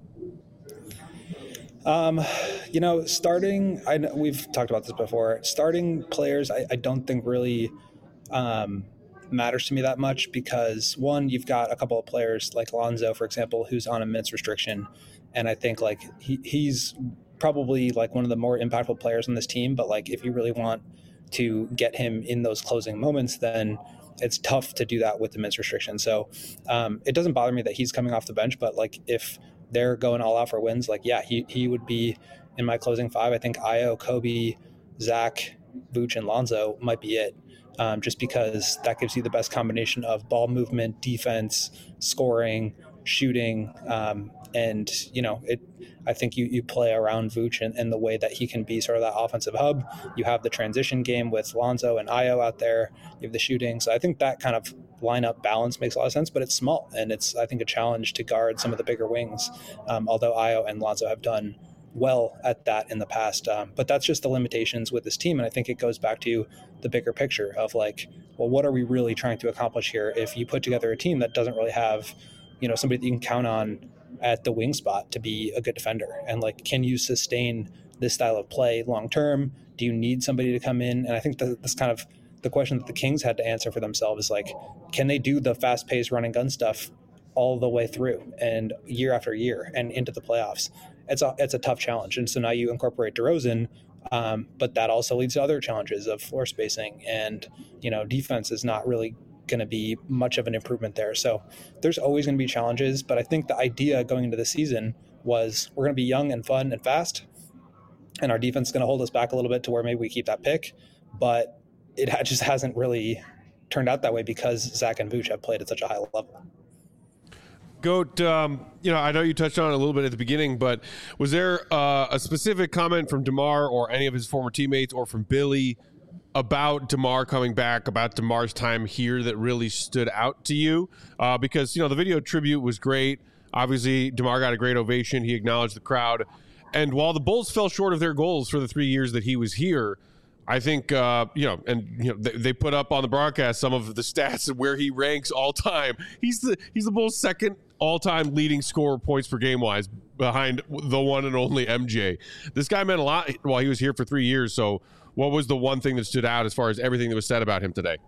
Starting, I know we've talked about this before. Starting players, I don't think really matters to me that much because, one, you've got a couple of players like Lonzo, for example, who's on a minutes restriction. And I think like he's probably like one of the more impactful players on this team. But like if you really want to get him in those closing moments, then it's tough to do that with the minutes restriction. So it doesn't bother me that he's coming off the bench, but like if they're going all out for wins, like, yeah, he would be in my closing 5. I think Ayo, Kobe, Zach, Vooch, and Lonzo might be it. Just because that gives you the best combination of ball movement, defense, scoring, shooting. And, I think you play around Vooch and the way that he can be sort of that offensive hub. You have the transition game with Lonzo and Ayo out there. You have the shooting. So I think that kind of lineup balance makes a lot of sense, but it's small. And it's, I think, a challenge to guard some of the bigger wings, although Ayo and Lonzo have done well at that in the past. But that's just the limitations with this team. And I think it goes back to the bigger picture of like, well, what are we really trying to accomplish here if you put together a team that doesn't really have, somebody that you can count on at the wing spot to be a good defender? And like, can you sustain this style of play long term? Do you need somebody to come in? And I think that's kind of the question that the Kings had to answer for themselves is like, can they do the fast paced run and gun stuff all the way through and year after year and into the playoffs? It's a tough challenge. And so now you incorporate DeRozan, but that also leads to other challenges of floor spacing and, defense is not really going to be much of an improvement there. So there's always going to be challenges, but I think the idea going into the season was we're going to be young and fun and fast, and our defense is going to hold us back a little bit to where maybe we keep that pick, but it just hasn't really turned out that way because Zach and Vooch have played at such a high level. Goat, I know you touched on it a little bit at the beginning, but was there a specific comment from DeMar or any of his former teammates or from Billy about DeMar coming back, about DeMar's time here that really stood out to you? Because, the video tribute was great. Obviously, DeMar got a great ovation. He acknowledged the crowd. And while the Bulls fell short of their goals for the 3 years that he was here, I think, they put up on the broadcast some of the stats of where he ranks all time. He's the Bulls' second all-time leading scorer points per game wise behind the one and only MJ. This guy meant a lot while he was here for 3 years. So what was the one thing that stood out as far as everything that was said about him today?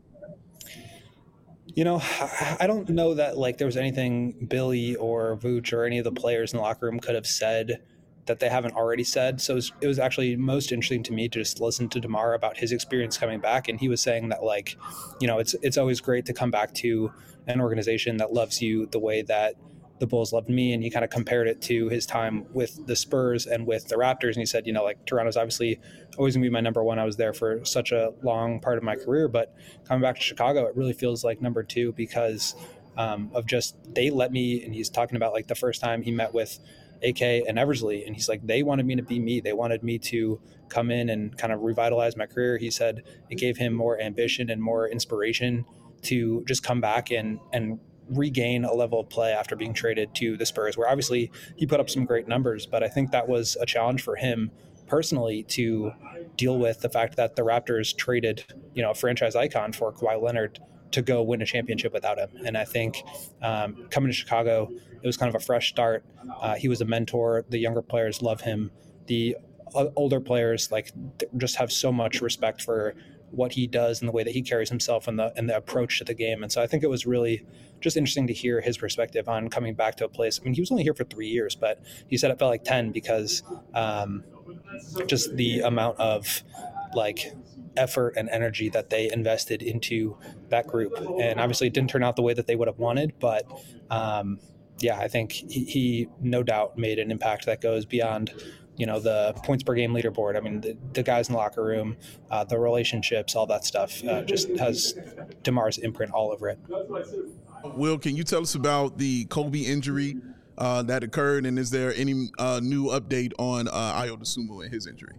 I don't know that like there was anything Billy or Vooch or any of the players in the locker room could have said that they haven't already said. So it was actually most interesting to me to just listen to DeMar about his experience coming back. And he was saying that like, it's always great to come back to an organization that loves you the way that the Bulls loved me. And he kind of compared it to his time with the Spurs and with the Raptors. And he said, Toronto's obviously always gonna be my number one. I was there for such a long part of my career, but coming back to Chicago, it really feels like number 2 because of just, they let me, and he's talking about like the first time he met with AK and Eversley, and he's like, they wanted me to be me. They wanted me to come in and kind of revitalize my career. He said it gave him more ambition and more inspiration to just come back and regain a level of play after being traded to the Spurs, where obviously he put up some great numbers, but I think that was a challenge for him personally to deal with the fact that the Raptors traded, a franchise icon for Kawhi Leonard to go win a championship without him. And I think coming to Chicago, it was kind of a fresh start. He was a mentor. The younger players love him. The older players just have so much respect for what he does and the way that he carries himself and the approach to the game. And so I think it was really just interesting to hear his perspective on coming back to a place. I mean, he was only here for 3 years, but he said it felt like 10 because just the amount of effort and energy that they invested into that group. And obviously it didn't turn out the way that they would have wanted, but I think he no doubt made an impact that goes beyond the points per game leaderboard. I mean, the guys in the locker room, the relationships, all that stuff just has DeMar's imprint all over it. Will, can you tell us about the Kobe injury that occurred, and is there any new update on Ayo Dosunmu and his injury?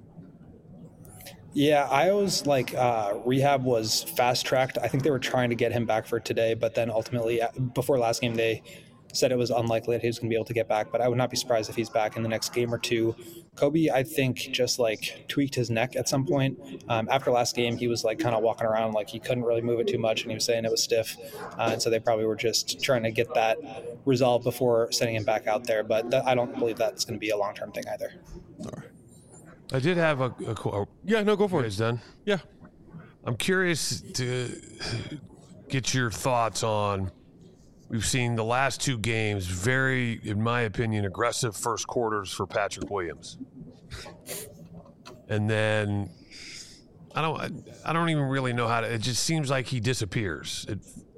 Yeah, Ayo's rehab was fast-tracked. I think they were trying to get him back for today, but then ultimately, before last game, they said it was unlikely that he was going to be able to get back, but I would not be surprised if he's back in the next game or two. Kobe, I think, just like tweaked his neck at some point. After last game, he was like kind of walking around like he couldn't really move it too much, and he was saying it was stiff. And so they probably were just trying to get that resolved before sending him back out there. But I don't believe that's going to be a long-term thing either. All right. I did have a Yeah, no, go for it. It's done. Yeah. I'm curious to get your thoughts on. We've seen the last 2 games, very, in my opinion, aggressive first quarters for Patrick Williams. And then I don't even really know how to. It just seems like he disappears.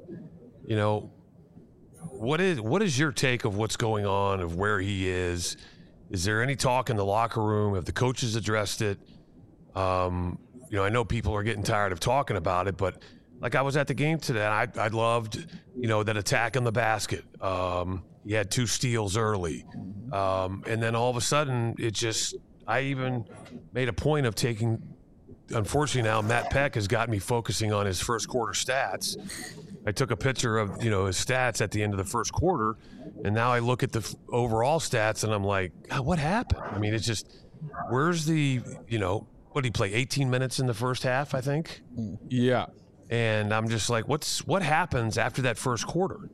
What is your take of what's going on, of where he is? Is there any talk in the locker room? Have the coaches addressed it? I know people are getting tired of talking about it, but like I was at the game today, and I loved, that attack on the basket. He had 2 steals early. And then all of a sudden, I even made a point of taking, unfortunately now, Matt Peck has got me focusing on his first quarter stats. I took a picture of, his stats at the end of the first quarter, and now I look at the overall stats, and I'm like, God, what happened? I mean, it's just, where's the, what did he play, 18 minutes in the first half, I think? Yeah. And I'm just like, what happens after that first quarter?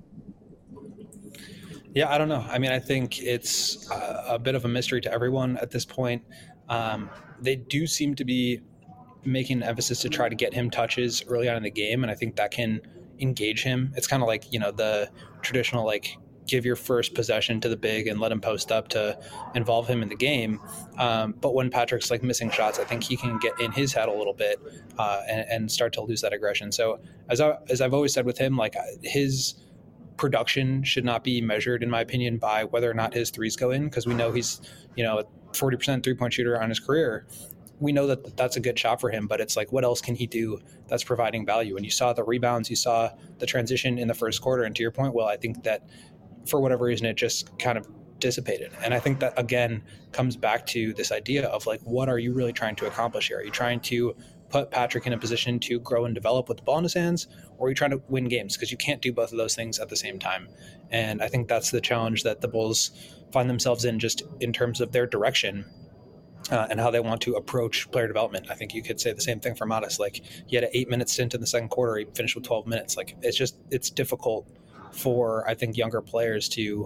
Yeah, I don't know. I mean, I think it's a bit of a mystery to everyone at this point. They do seem to be making an emphasis to try to get him touches early on in the game, and I think that can engage him. It's kind of like, the traditional, like, give your first possession to the big and let him post up to involve him in the game. But when Patrick's like missing shots, I think he can get in his head a little bit and start to lose that aggression. So as I've always said with him, like his production should not be measured, in my opinion, by whether or not his threes go in, because we know he's, a 40% 3-point shooter on his career. We know that that's a good shot for him, but it's like, what else can he do that's providing value? And you saw the rebounds, you saw the transition in the first quarter. And to your point, Will, I think that for whatever reason, it just kind of dissipated. And I think that, again, comes back to this idea of like, what are you really trying to accomplish here? Are you trying to put Patrick in a position to grow and develop with the ball in his hands, or are you trying to win games? Because you can't do both of those things at the same time. And I think that's the challenge that the Bulls find themselves in, just in terms of their direction and how they want to approach player development. I think you could say the same thing for Modest. Like, he had an 8-minute stint in the second quarter. He finished with 12 minutes. Like, it's difficult for, I think, younger players to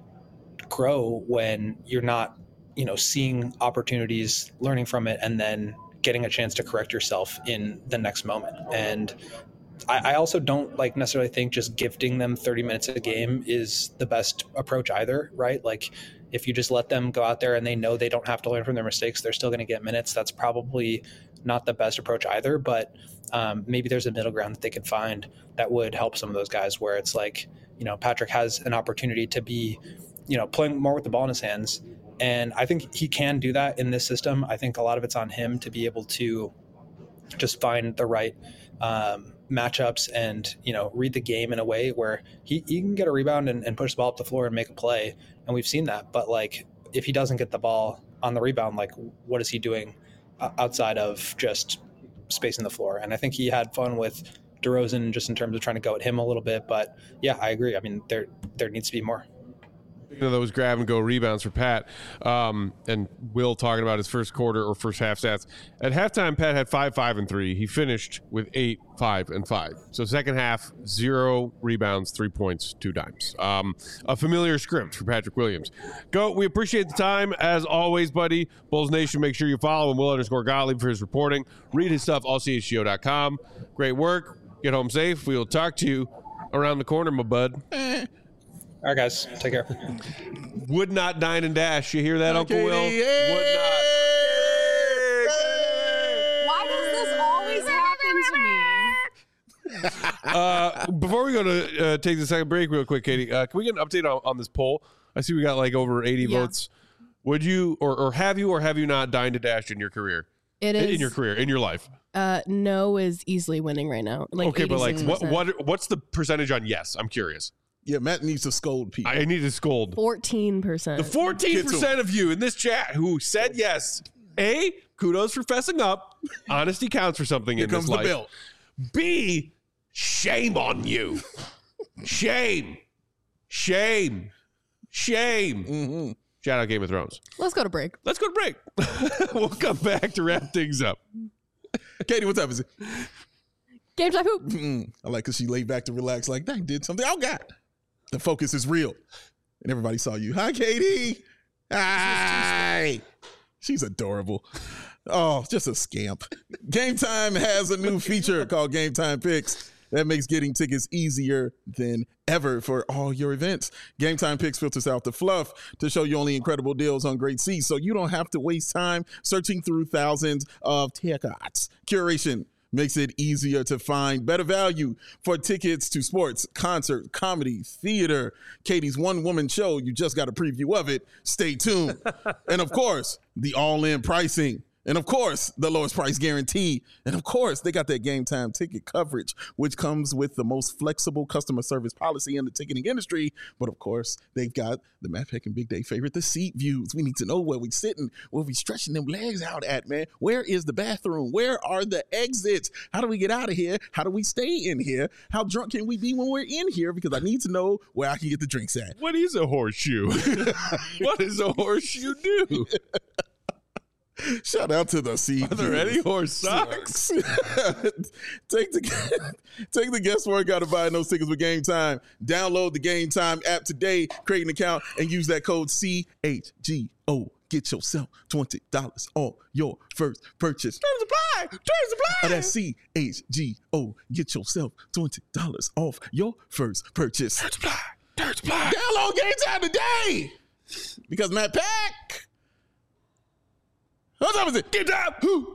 grow when you're not, seeing opportunities, learning from it, and then getting a chance to correct yourself in the next moment. And I also don't necessarily think just gifting them 30 minutes a game is the best approach either, right? Like, if you just let them go out there and they know they don't have to learn from their mistakes, they're still going to get minutes. That's probably not the best approach either, but maybe there's a middle ground that they could find that would help some of those guys, where it's like, Patrick has an opportunity to be, playing more with the ball in his hands. And I think he can do that in this system. I think a lot of it's on him to be able to just find the right matchups and, read the game in a way where he can get a rebound and push the ball up the floor and make a play. And we've seen that. But if he doesn't get the ball on the rebound, what is he doing outside of just spacing the floor? And I think he had fun with DeRozan just in terms of trying to go at him a little bit. But yeah, I agree. I mean, there needs to be more. Those grab and go rebounds for Pat, and Will talking about his first quarter or first half stats. At halftime, Pat had 5, 5, and 3. He finished with 8, 5, and 5. So second half, 0 rebounds, 3 points, 2 dimes. A familiar script for Patrick Williams. We appreciate the time as always, buddy. Bulls Nation, make sure you follow him, Will_Gottlieb, for his reporting. Read his stuff, allchgo.com. Great work. Get home safe. We will talk to you around the corner, my bud. All right, guys. Take care. Would not dine and dash. You hear that, Uncle Will? Would not. Why does this always happen to me? Before we go to take the second break real quick, Katie, can we get an update on this poll? I see we got over 80 votes. Would you or have you not dined and dashed in your career? It is. In your career, in your life? No is easily winning right now. Okay, but what's the percentage on yes? I'm curious. Yeah, Matt needs to scold people. I need to scold. 14%. The 14% of you in this chat who said yes. A, kudos for fessing up. Honesty counts for something in this life. Here comes the bill. B, shame on you. Shame. Shame. Mm-hmm. Shout out Game of Thrones. Let's go to break. Let's go to break. We'll come back to wrap things up. Katie, what time is it? Game time hoop. I like because she laid back to relax like, dang, did something. Oh, God. The focus is real. And everybody saw you. Hi, Katie. Hi. She's adorable. Oh, just a scamp. Game Time has a new feature called Game Time Picks that makes getting tickets easier than ever for all your events. Game Time Picks filters out the fluff to show you only incredible deals on great seats, so you don't have to waste time searching through thousands of tickets. Curation makes it easier to find better value for tickets to sports, concerts, comedy, theater. Katie's one-woman show, you just got a preview of it. Stay tuned. And, of course, the all-in pricing. And, of course, the lowest price guarantee. And, of course, they got that Game Time ticket coverage, which comes with the most flexible customer service policy in the ticketing industry. But, of course, they've got the Matt Peck and Big Day favorite, the seat views. We need to know where we sitting, where we stretching them legs out at, man. Where is the bathroom? Where are the exits? How do we get out of here? How do we stay in here? How drunk can we be when we're in here? Because I need to know where I can get the drinks at. What is a horseshoe? What does a horseshoe do? Shout out to the seat. Are there any horse socks? Take the guesswork out of buying those tickets with Game Time. Download the Game Time app today, create an account, and use that code CHGO. Get yourself $20 off your first purchase. Terms apply. That's CHGO. Get yourself $20 off your first purchase. Terms apply. Download Game Time today. Because Matt Peck. What time is it? Game Time!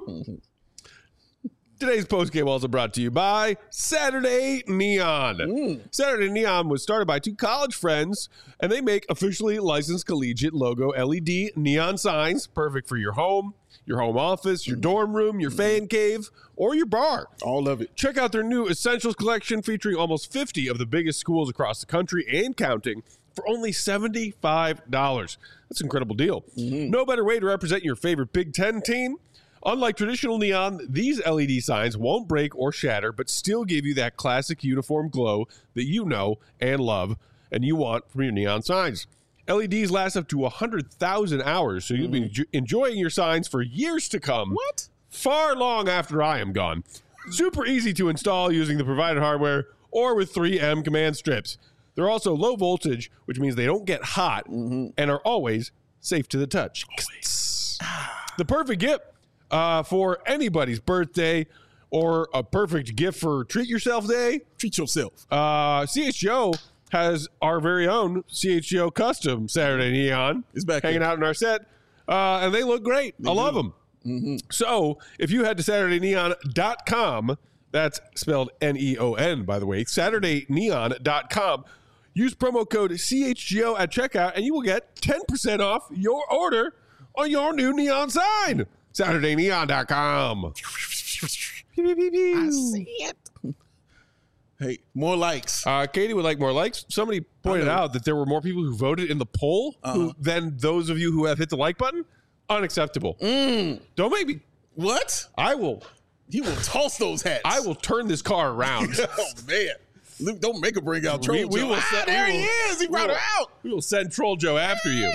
Today's postgame also brought to you by Saturday Neon. Saturday Neon was started by two college friends, and they make officially licensed collegiate logo LED neon signs, perfect for your home office, your dorm room, your fan cave, or your bar. All of it. Check out their new Essentials collection featuring almost 50 of the biggest schools across the country and counting for only $75. That's an incredible deal. No better way to represent your favorite Big Ten team. Unlike traditional neon, these LED signs won't break or shatter, but still give you that classic uniform glow that you know and love and you want from your neon signs. LEDs last up to 100,000 hours, so you'll be enjoying your signs for years to come. What? Far long after I am gone. Super easy to install using the provided hardware or with 3M command strips. They're also low voltage, which means they don't get hot and are always safe to the touch. The perfect gift for anybody's birthday or a perfect gift for treat yourself day. Treat yourself. CHGO has our very own CHGO custom Saturday Neon. It's back hanging here. out in our set. And they look great. I love them. So if you head to SaturdayNeon.com, that's spelled Neon, by the way, SaturdayNeon.com, use promo code CHGO at checkout, and you will get 10% off your order on your new neon sign. SaturdayNeon.com. I see it. Hey, more likes. Katie would like more likes. Somebody pointed out that there were more people who voted in the poll than those of you who have hit the like button. Unacceptable. Don't make me. What? He will toss those hats. I will turn this car around. Oh, man. Luke, don't make her bring out Troll We Joe. will There he is. He brought her out. We will send Troll Joe after you.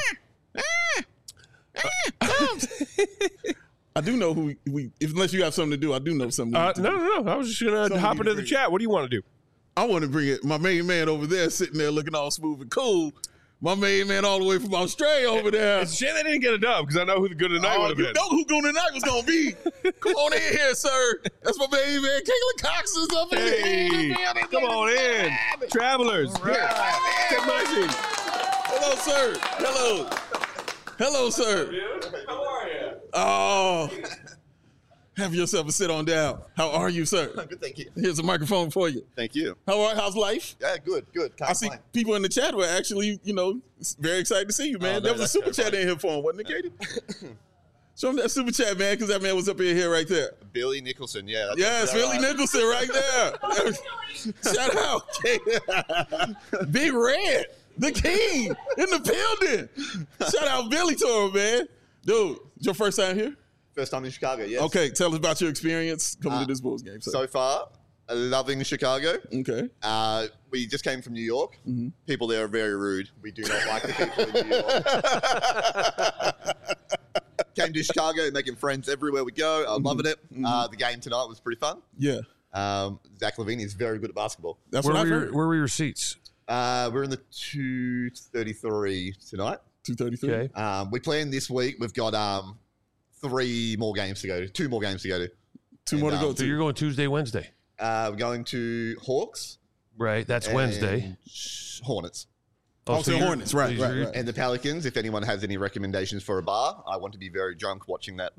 I do know who unless you have something to do, I do know something. No. I was just going to hop into the chat. What do you want to do? I want to bring it. My main man over there sitting there looking all smooth and cool. My main man all the way from Australia over there. It's a shame they didn't get a dub because I know who the good tonight would have been. You know who good tonight was going to be. Come on in here, sir. That's my main man. Caitlin Cox is up in here. Come on in. Travelers. Right. Take my seat. Hello, sir. Hello, sir. How are you? Oh. Have yourself a sit on down. How are you, sir? Good, thank you. Here's a microphone for you. Thank you. How's life? Yeah, good. Can't I see complain. people in the chat were actually, very excited to see you, man. There was a super chat in here for him, wasn't it, Katie? Show him that super chat, man, because that man was up in here right there. Billy Nicholson, yeah. Yes, Billy Nicholson right there. Shout out. Big Red, the king in the building. Shout out Billy to him, man. Dude, it's your first time here? First time in Chicago, yes. Okay, tell us about your experience coming to this Bulls game. So far, Loving Chicago. Okay. We just came from New York. Mm-hmm. People there are very rude. We do not like the people in New York. Came to Chicago, making friends everywhere we go. I'm loving it. The game tonight was pretty fun. Yeah. Zach LaVine is very good at basketball. That's Where what I've were heard. where were your seats? We're in the 233 tonight. 233. Okay. We planned this week. We've got 3 more games to go to. 2 more games to go to. 2 more to go So to. you're going Tuesday, Wednesday, We're going to Hawks. right? That's and Wednesday. Hornets. Oh, so you're- Hornets. Right, so right, you're- right. And the Pelicans, if anyone has any recommendations for a bar, I want to be very drunk watching that.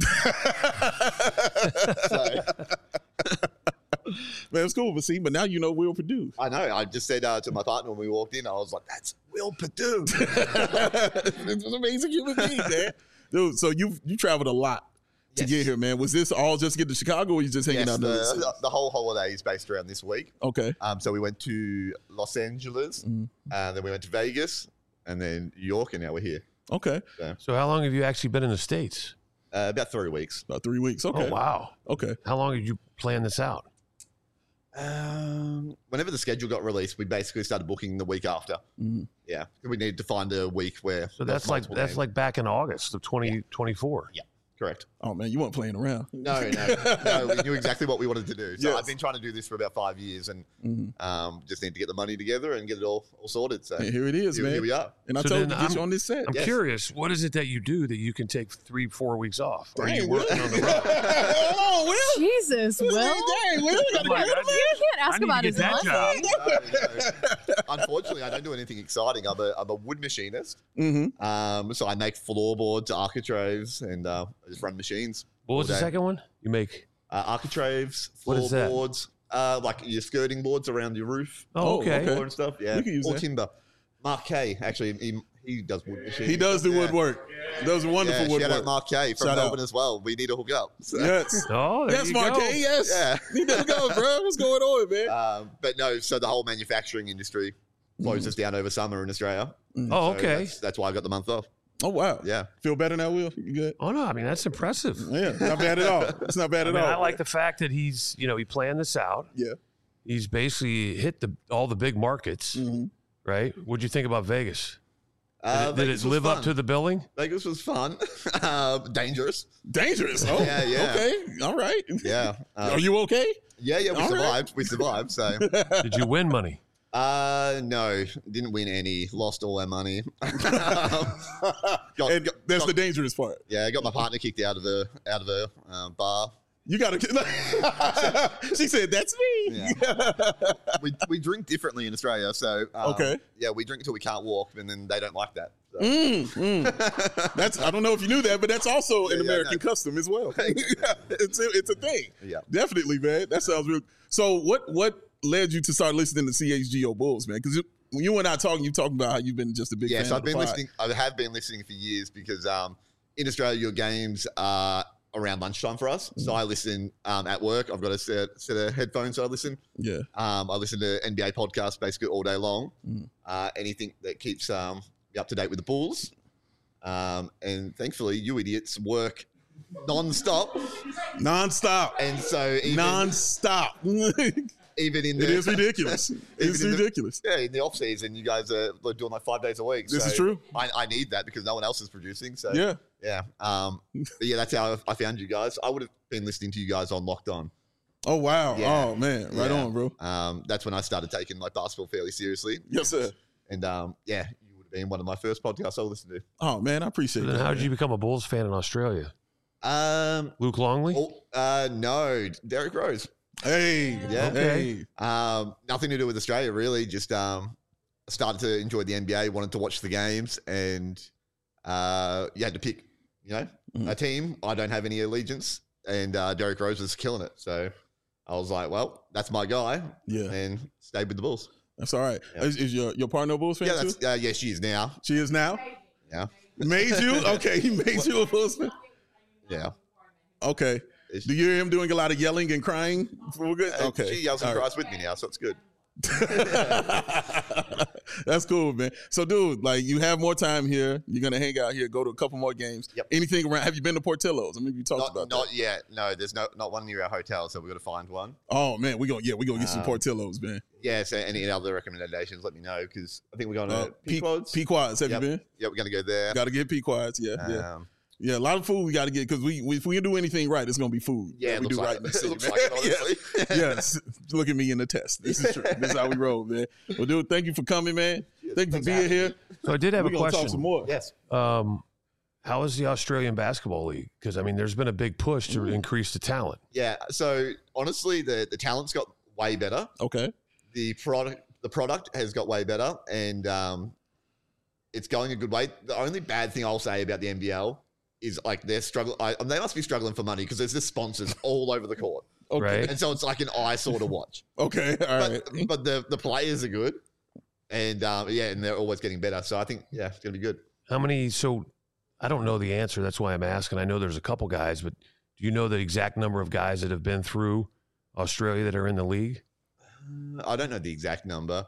So, Man, it's cool. But now you know Will Purdue. I know. I just said to my partner when we walked in, I was like, that's Will Purdue. It's an amazing human being, man. Dude, so you traveled a lot to get here, man. Was this all just to get to Chicago, or you just hanging Yes, out? the whole holiday is based around this week. Okay. So we went to Los Angeles, then we went to Vegas, and then New York, and now we're here. Okay. So how long have you actually been in the States? About 3 weeks. About 3 weeks. Okay. Oh, wow. Okay. How long did you plan this out? Whenever the schedule got released, we basically started booking the week after. Yeah, we needed to find a week where. So there that's was multiple games. like back in August of 2024. Yeah, correct. Oh man, you weren't playing around. No, we knew exactly what we wanted to do. So Yes. I've been trying to do this for about 5 years, and just need to get the money together and get it all sorted. So And here it is, man. Here we are. And I So told you then to get you on this set. I'm Yes. curious, what is it that you do that you can take 3-4 weeks off? Or are you Dang, working Will. on the road? Hold on, Will. Jesus, Will. Dang, Will. You gotta Come on, get rid of I- me. You can't I ask need about to his get that money. job. No. Unfortunately, I don't do anything exciting. I'm a wood machinist. Mm-hmm. So I make floorboards, architraves, and I just run machines. What was all the day. second one? You make. Architraves, What is that? floorboards, like your skirting boards around your roof. Oh, okay. Floor and stuff. Yeah, We can use or that. timber. Mark K, actually, he does wood machines. He does do Yeah. woodwork. Does wonderful Yeah, shout out woodwork. Mark K from Shout out. Melbourne as well. We need to hook up. So, Yes. Oh, there Yes, you Mark go. K. Yes. Yeah. He does go, bro. What's going on, man? But no, so the whole manufacturing industry closes down over summer in Australia. Oh, So okay. that's why I got the month off. Oh wow. Yeah. Feel better now, Will? You good? Oh, no. I mean, that's impressive. Yeah. Not bad at all. It's not bad I at mean, all. I like the fact that he's, he planned this out. Yeah. He's basically hit all the big markets, right? What'd you think about Vegas? Did Vegas it was live up fun. to the billing? Vegas was fun. Dangerous. Dangerous. Oh. Yeah, yeah. Okay. All right. Yeah. Are you okay? Yeah, we All right. survived. We survived. So, Did you win money? no, didn't win any. Lost all our money. And that's the dangerous part. Yeah, I got my partner kicked out of the bar. You got to. She said, "That's me." Yeah. we drink differently in Australia, so Okay. Yeah, we drink until we can't walk, and then they don't like that. So. That's. I don't know if you knew that, but that's also an Yeah, American no. custom as well. It's a thing. Yeah. Definitely, man. That sounds real. So, what led you to start listening to CHGO Bulls, man? Because when you and I talking, you talking about how you've been just a big Yeah, fan. so of I've the been pod. listening. I have been listening for years because in Australia, your games are around lunchtime for us. So I listen at work. I've got a set of headphones. So I listen. Yeah. I listen to NBA podcasts basically all day long. Anything that keeps me up to date with the Bulls. And thankfully, you idiots work non-stop. Nonstop. And so Nonstop. even in the, It is ridiculous. It's Even in the- ridiculous. Yeah, in the off season, you guys are doing like 5 days a week. This So is true. I need that because no one else is producing. So Yeah. yeah. But yeah, that's how I found you guys. I would have been listening to you guys on Locked On. Oh wow. Yeah. Oh man. Right Yeah. on, bro. That's when I started taking like basketball fairly seriously. Yes, sir. And yeah, you would have been one of my first podcasts I listened to. Oh man, I appreciate Then that. how did man. you become a Bulls fan in Australia? Luke Longley? No, Derrick Rose. Hey. Yeah. Hey. Nothing to do with Australia, really. Just started to enjoy the NBA, wanted to watch the games, and you had to pick, a team. I don't have any allegiance, and Derrick Rose was killing it. So I was like, well, that's my guy, Yeah. and stayed with the Bulls. That's all right. Yeah. Is your partner a Bulls fan Yeah, too? yeah, she is now. She is now. Yeah, Made you? Okay, he made you a Bulls fan. yeah. Okay. Do you hear him doing a lot of yelling and crying? Okay. She yells and All right. cries with me now, so it's good. That's cool, man. So, dude, like, you have more time here. You're gonna hang out here, go to a couple more games. Yep. Anything around? Have you been to Portillo's? I mean, you talked about that. Not yet. No, there's not one near our hotel, so we've got to find one. Oh man, we gonna get some Portillo's, man. Yeah. So any other recommendations, let me know because I think we're going to Pequod's. Pequod's, have you been? Yeah, we're gonna go there. Got to get Pequod's. Yeah, a lot of food we got to get because if we do anything right, it's gonna be food. Yeah, we do like right in the city. Looks like it, honestly. Yes, look at me in the test. This is true. This is how we roll, man. Well, dude, thank you for coming, man. Thank you for being here. So I did have a question. Talk some more. Yes. How is the Australian Basketball League? Because I mean, there's been a big push to increase the talent. Yeah. So honestly, the talent's got way better. Okay. The product has got way better, and it's going a good way. The only bad thing I'll say about the NBL is like they're struggling. They must be struggling for money because there's just sponsors all over the court. Okay. Right. And so it's like an eyesore to watch. Okay. All right. But the players are good. And and they're always getting better. So I think, it's going to be good. How many? So I don't know the answer. That's why I'm asking. I know there's a couple guys, but do you know the exact number of guys that have been through Australia that are in the league? I don't know the exact number.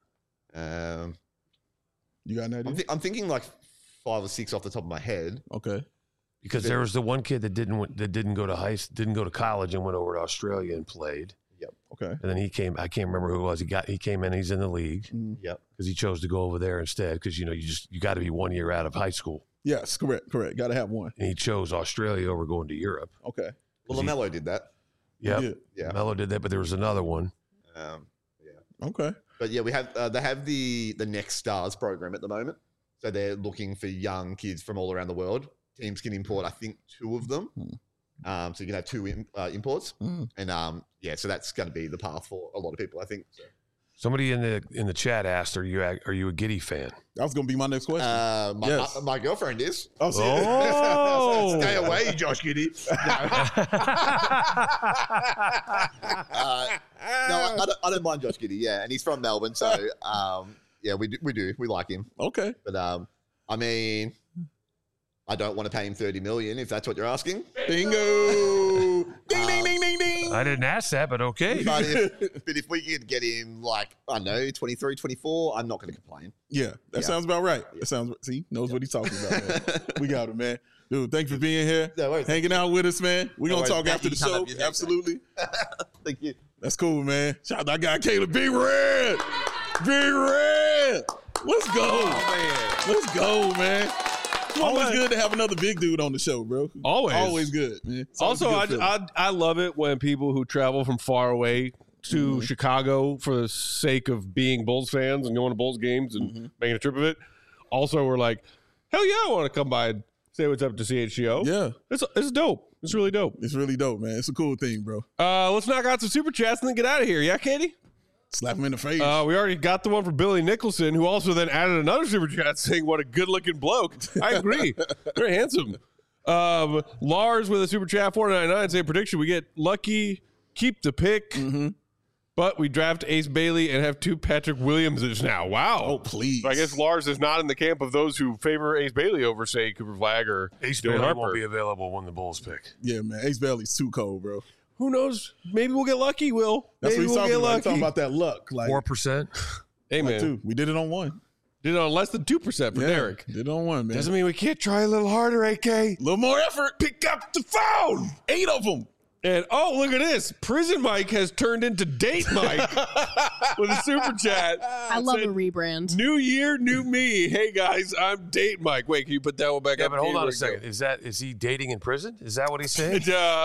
You got an idea? I'm thinking like 5 or 6 off the top of my head. Okay. Because there was the one kid that didn't go to college and went over to Australia and played. Yep. Okay. And then he came. I can't remember who it was. He came in. He's in the league. Yep. Because he chose to go over there instead. Because you got to be 1 year out of high school. Yes, correct. Got to have one. And he chose Australia over going to Europe. Okay. Well, LaMelo did that. Yeah. Yeah. Melo did that, but there was another one. Okay. But yeah, we have they have the Next Stars program at the moment. So they're looking for young kids from all around the world. Teams can import, I think, 2 of them. So you can have 2 imports, and so that's going to be the path for a lot of people, I think. So. Somebody in the chat asked, "Are you a Giddey fan?" That was going to be my next question. My girlfriend is. Oh, Stay away, Josh Giddey. No, I don't mind Josh Giddey. Yeah, and he's from Melbourne, so we like him. Okay, but I mean. I don't want to pay him $30 million if that's what you're asking. Bingo! Ding, ding, ding, ding, ding. I didn't ask that, but okay. But if we could get him like, I don't know, 23, 24, I'm not going to complain. Yeah, that sounds about right. That sounds, knows what he's talking about, man. We got him, man. Dude, thanks for being here. No worries. Hanging out with us, man. We're going to talk after the show. Absolutely. Thank you. That's cool, man. Shout out to that guy, Caleb. Big Red. Big Red. Let's go. Oh, man. Let's go, man. Always good to have another big dude on the show, bro. Always good, man. Also, I love it when people who travel from far away to Chicago for the sake of being Bulls fans and going to Bulls games and making a trip of it. Also, we're like, hell yeah, I want to come by and say what's up to CHGO. Yeah. It's dope. It's really dope. It's really dope, man. It's a cool thing, bro. Let's knock out some super chats and then get out of here. Yeah, Katie? Slap him in the face. We already got the one for Billy Nicholson, who also then added another super chat saying, what a good-looking bloke. I agree. Very handsome. Lars with a super chat, 499, saying, prediction, we get Lucky, keep the pick, but we draft Ace Bailey and have 2 Patrick Williamses now. Wow. Oh, please. So I guess Lars is not in the camp of those who favor Ace Bailey over, say, Cooper Flagg or Ace Dylan Bailey Harper. won't be available when the Bulls pick. Yeah, man. Ace Bailey's too cold, bro. Who knows? Maybe we'll get lucky, Will. That's Maybe what he's talking about. He's talking lucky. about that luck. Like 4%. Hey, man. 2. We did it on 1. Did it on less than 2% for Derek. Did it on 1, man. Doesn't mean we can't try a little harder, AK. A little more effort. Pick up the phone. 8 of them. And, oh, look at this. Prison Mike has turned into Date Mike with a super chat. I love a rebrand. New year, new me. Hey, guys, I'm Date Mike. Wait, can you put that one back Yeah, up? but hold on a second. Is he dating in prison? Is that what he's saying?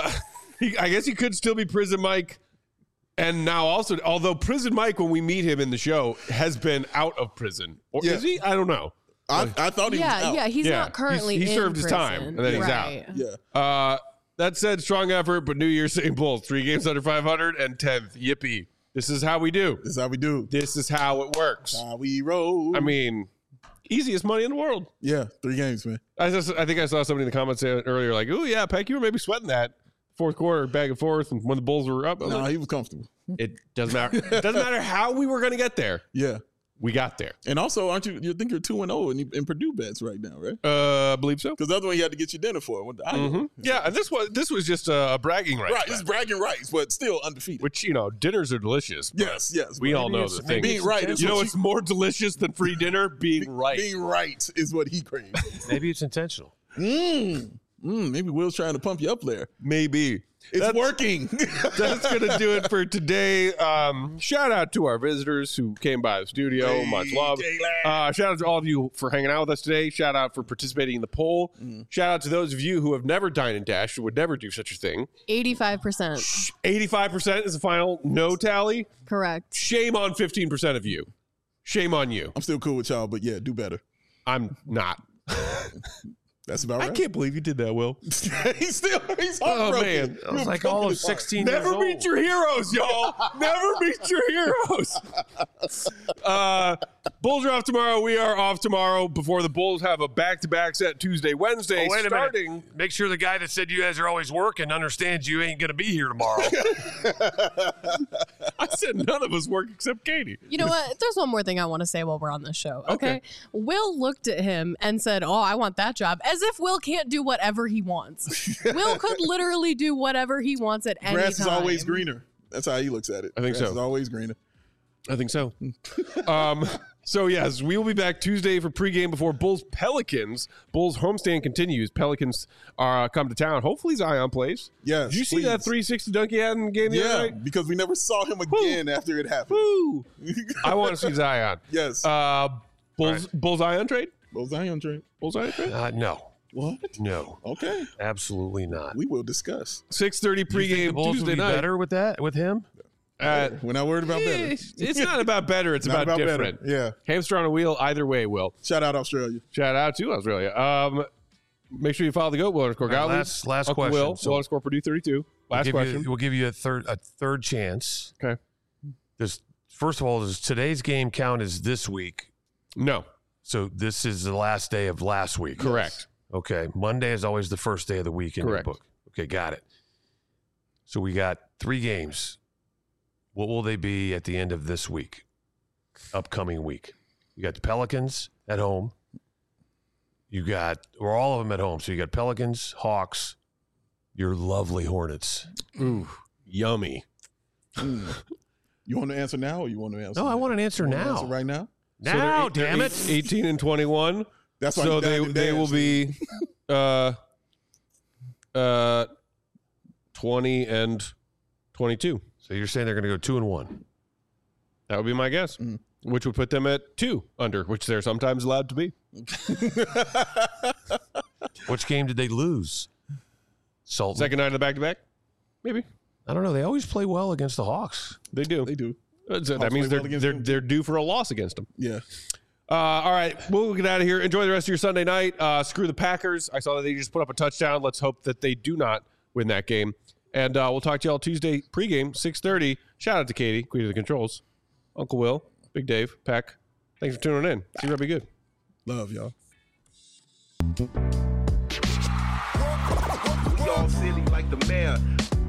I guess he could still be Prison Mike. And now also, although Prison Mike, when we meet him in the show, has been out of prison. Or is he? I don't know. I thought he was out. Yeah, he's not currently He in served his prison. time, and then he's Right. out. Yeah. That said, strong effort, but New Year's St. Bulls. 3 games under 500 and 10th. Yippee. This is how we do. This is how we do. This is how it works. How we roll. I mean, easiest money in the world. Yeah, 3 games, man. I think I saw somebody in the comments say earlier, like, "Oh yeah, Peck, you were maybe sweating that fourth quarter, back and forth, and when the Bulls were up." No, he was comfortable. It doesn't matter. It doesn't matter how we were going to get there. Yeah. we got there. And also, aren't you think you're 2-0 in Purdue bets right now, right? I believe so. Because that's what you had to get your dinner for. With the Iowa. Yeah, and this was just a bragging right. Right, it's bragging rights, but still undefeated. Which, dinners are delicious. Yes. We all know the thing. Being right is what's more delicious than free dinner? Being right. Being right is what he craves. Maybe it's intentional. Maybe Will's trying to pump you up there. Maybe. It's working. That's going to do it for today. Shout out to our visitors who came by the studio. Much love. Shout out to all of you for hanging out with us today. Shout out for participating in the poll. Shout out to those of you who have never dined and dashed, who would never do such a thing. 85%. 85% is the final no tally. Correct. Shame on 15% of you. Shame on you. I'm still cool with y'all, but yeah, do better. I'm not. That's about right. I can't believe you did that, Will. he's heartbroken. Oh, man. I was like all of 16 years Never old. meet your heroes, y'all. Never meet your heroes. Bulls are off tomorrow. We are off tomorrow before the Bulls have a back-to-back set Tuesday, Wednesday. Wait a starting. minute. Make sure the guy that said you guys are always working understands you ain't going to be here tomorrow. I said none of us work except Katie. You know what? There's one more thing I want to say while we're on this show. Okay. Will looked at him and said, "Oh, I want that job," as if Will can't do whatever he wants. Will could literally do whatever he wants at any Grass time. is always greener. That's how he looks at it. I think Grass so. is always greener. I think so. So, yes, we will be back Tuesday for pregame before Bulls Pelicans. Bulls homestand continues. Pelicans come to town. Hopefully Zion plays. Yes. Did you see please. that 360 dunk he had in the game the other Yeah, night? because we never saw him again after it happened. Woo! I want to see Zion. Yes. Bulls Zion trade? Bulls Zion trade. Bulls Zion trade? No. What? No. Okay. Absolutely not. We will discuss. 6:30 You think the pregame Bulls Tuesday would be night. better with that, with him? We're not worried about better. It's not about better. It's Not about better. different. Yeah. Hamster on a wheel either way, Will. Shout out Australia. Shout out to Australia. Make sure you follow the GOAT, Will underscore All right, Gottlieb. last Uncle question. Will, So- Will underscore Purdue 32. Last question. We'll give you a third chance. Okay. First of all, does today's game count as this week? No. So this is the last day of last week. Correct. Okay. Monday is always the first day of the week in Correct. your book. Okay, got it. So we got 3 games. What will they be at the end of this week? Upcoming week. You got the Pelicans at home. Or all of them at home. So you got Pelicans, Hawks, your lovely Hornets. Ooh, yummy. You want to answer now or you want to answer? No, I want an answer You want to now. answer right now? Now, they're damn it. 18 and 21. That's why So you they dined and will danced. be 20 and 22. So you're saying they're going to go 2-1. That would be my guess, which would put them at 2 under, which they're sometimes allowed to be. Which game did they lose? Sultan. Second night of the back-to-back? Maybe. I don't know. They always play well against the Hawks. They do. They do. So that means play well against them. they're due for a loss against them. Yeah. All right, we'll get out of here. Enjoy the rest of your Sunday night. Screw the Packers. I saw that they just put up a touchdown. Let's hope that they do not win that game. And we'll talk to y'all Tuesday pregame, 6:30. Shout out to Katie, Queen of the Controls, Uncle Will, Big Dave, Peck. Thanks for tuning in. See you, be good. Love y'all. We all silly like the mayor.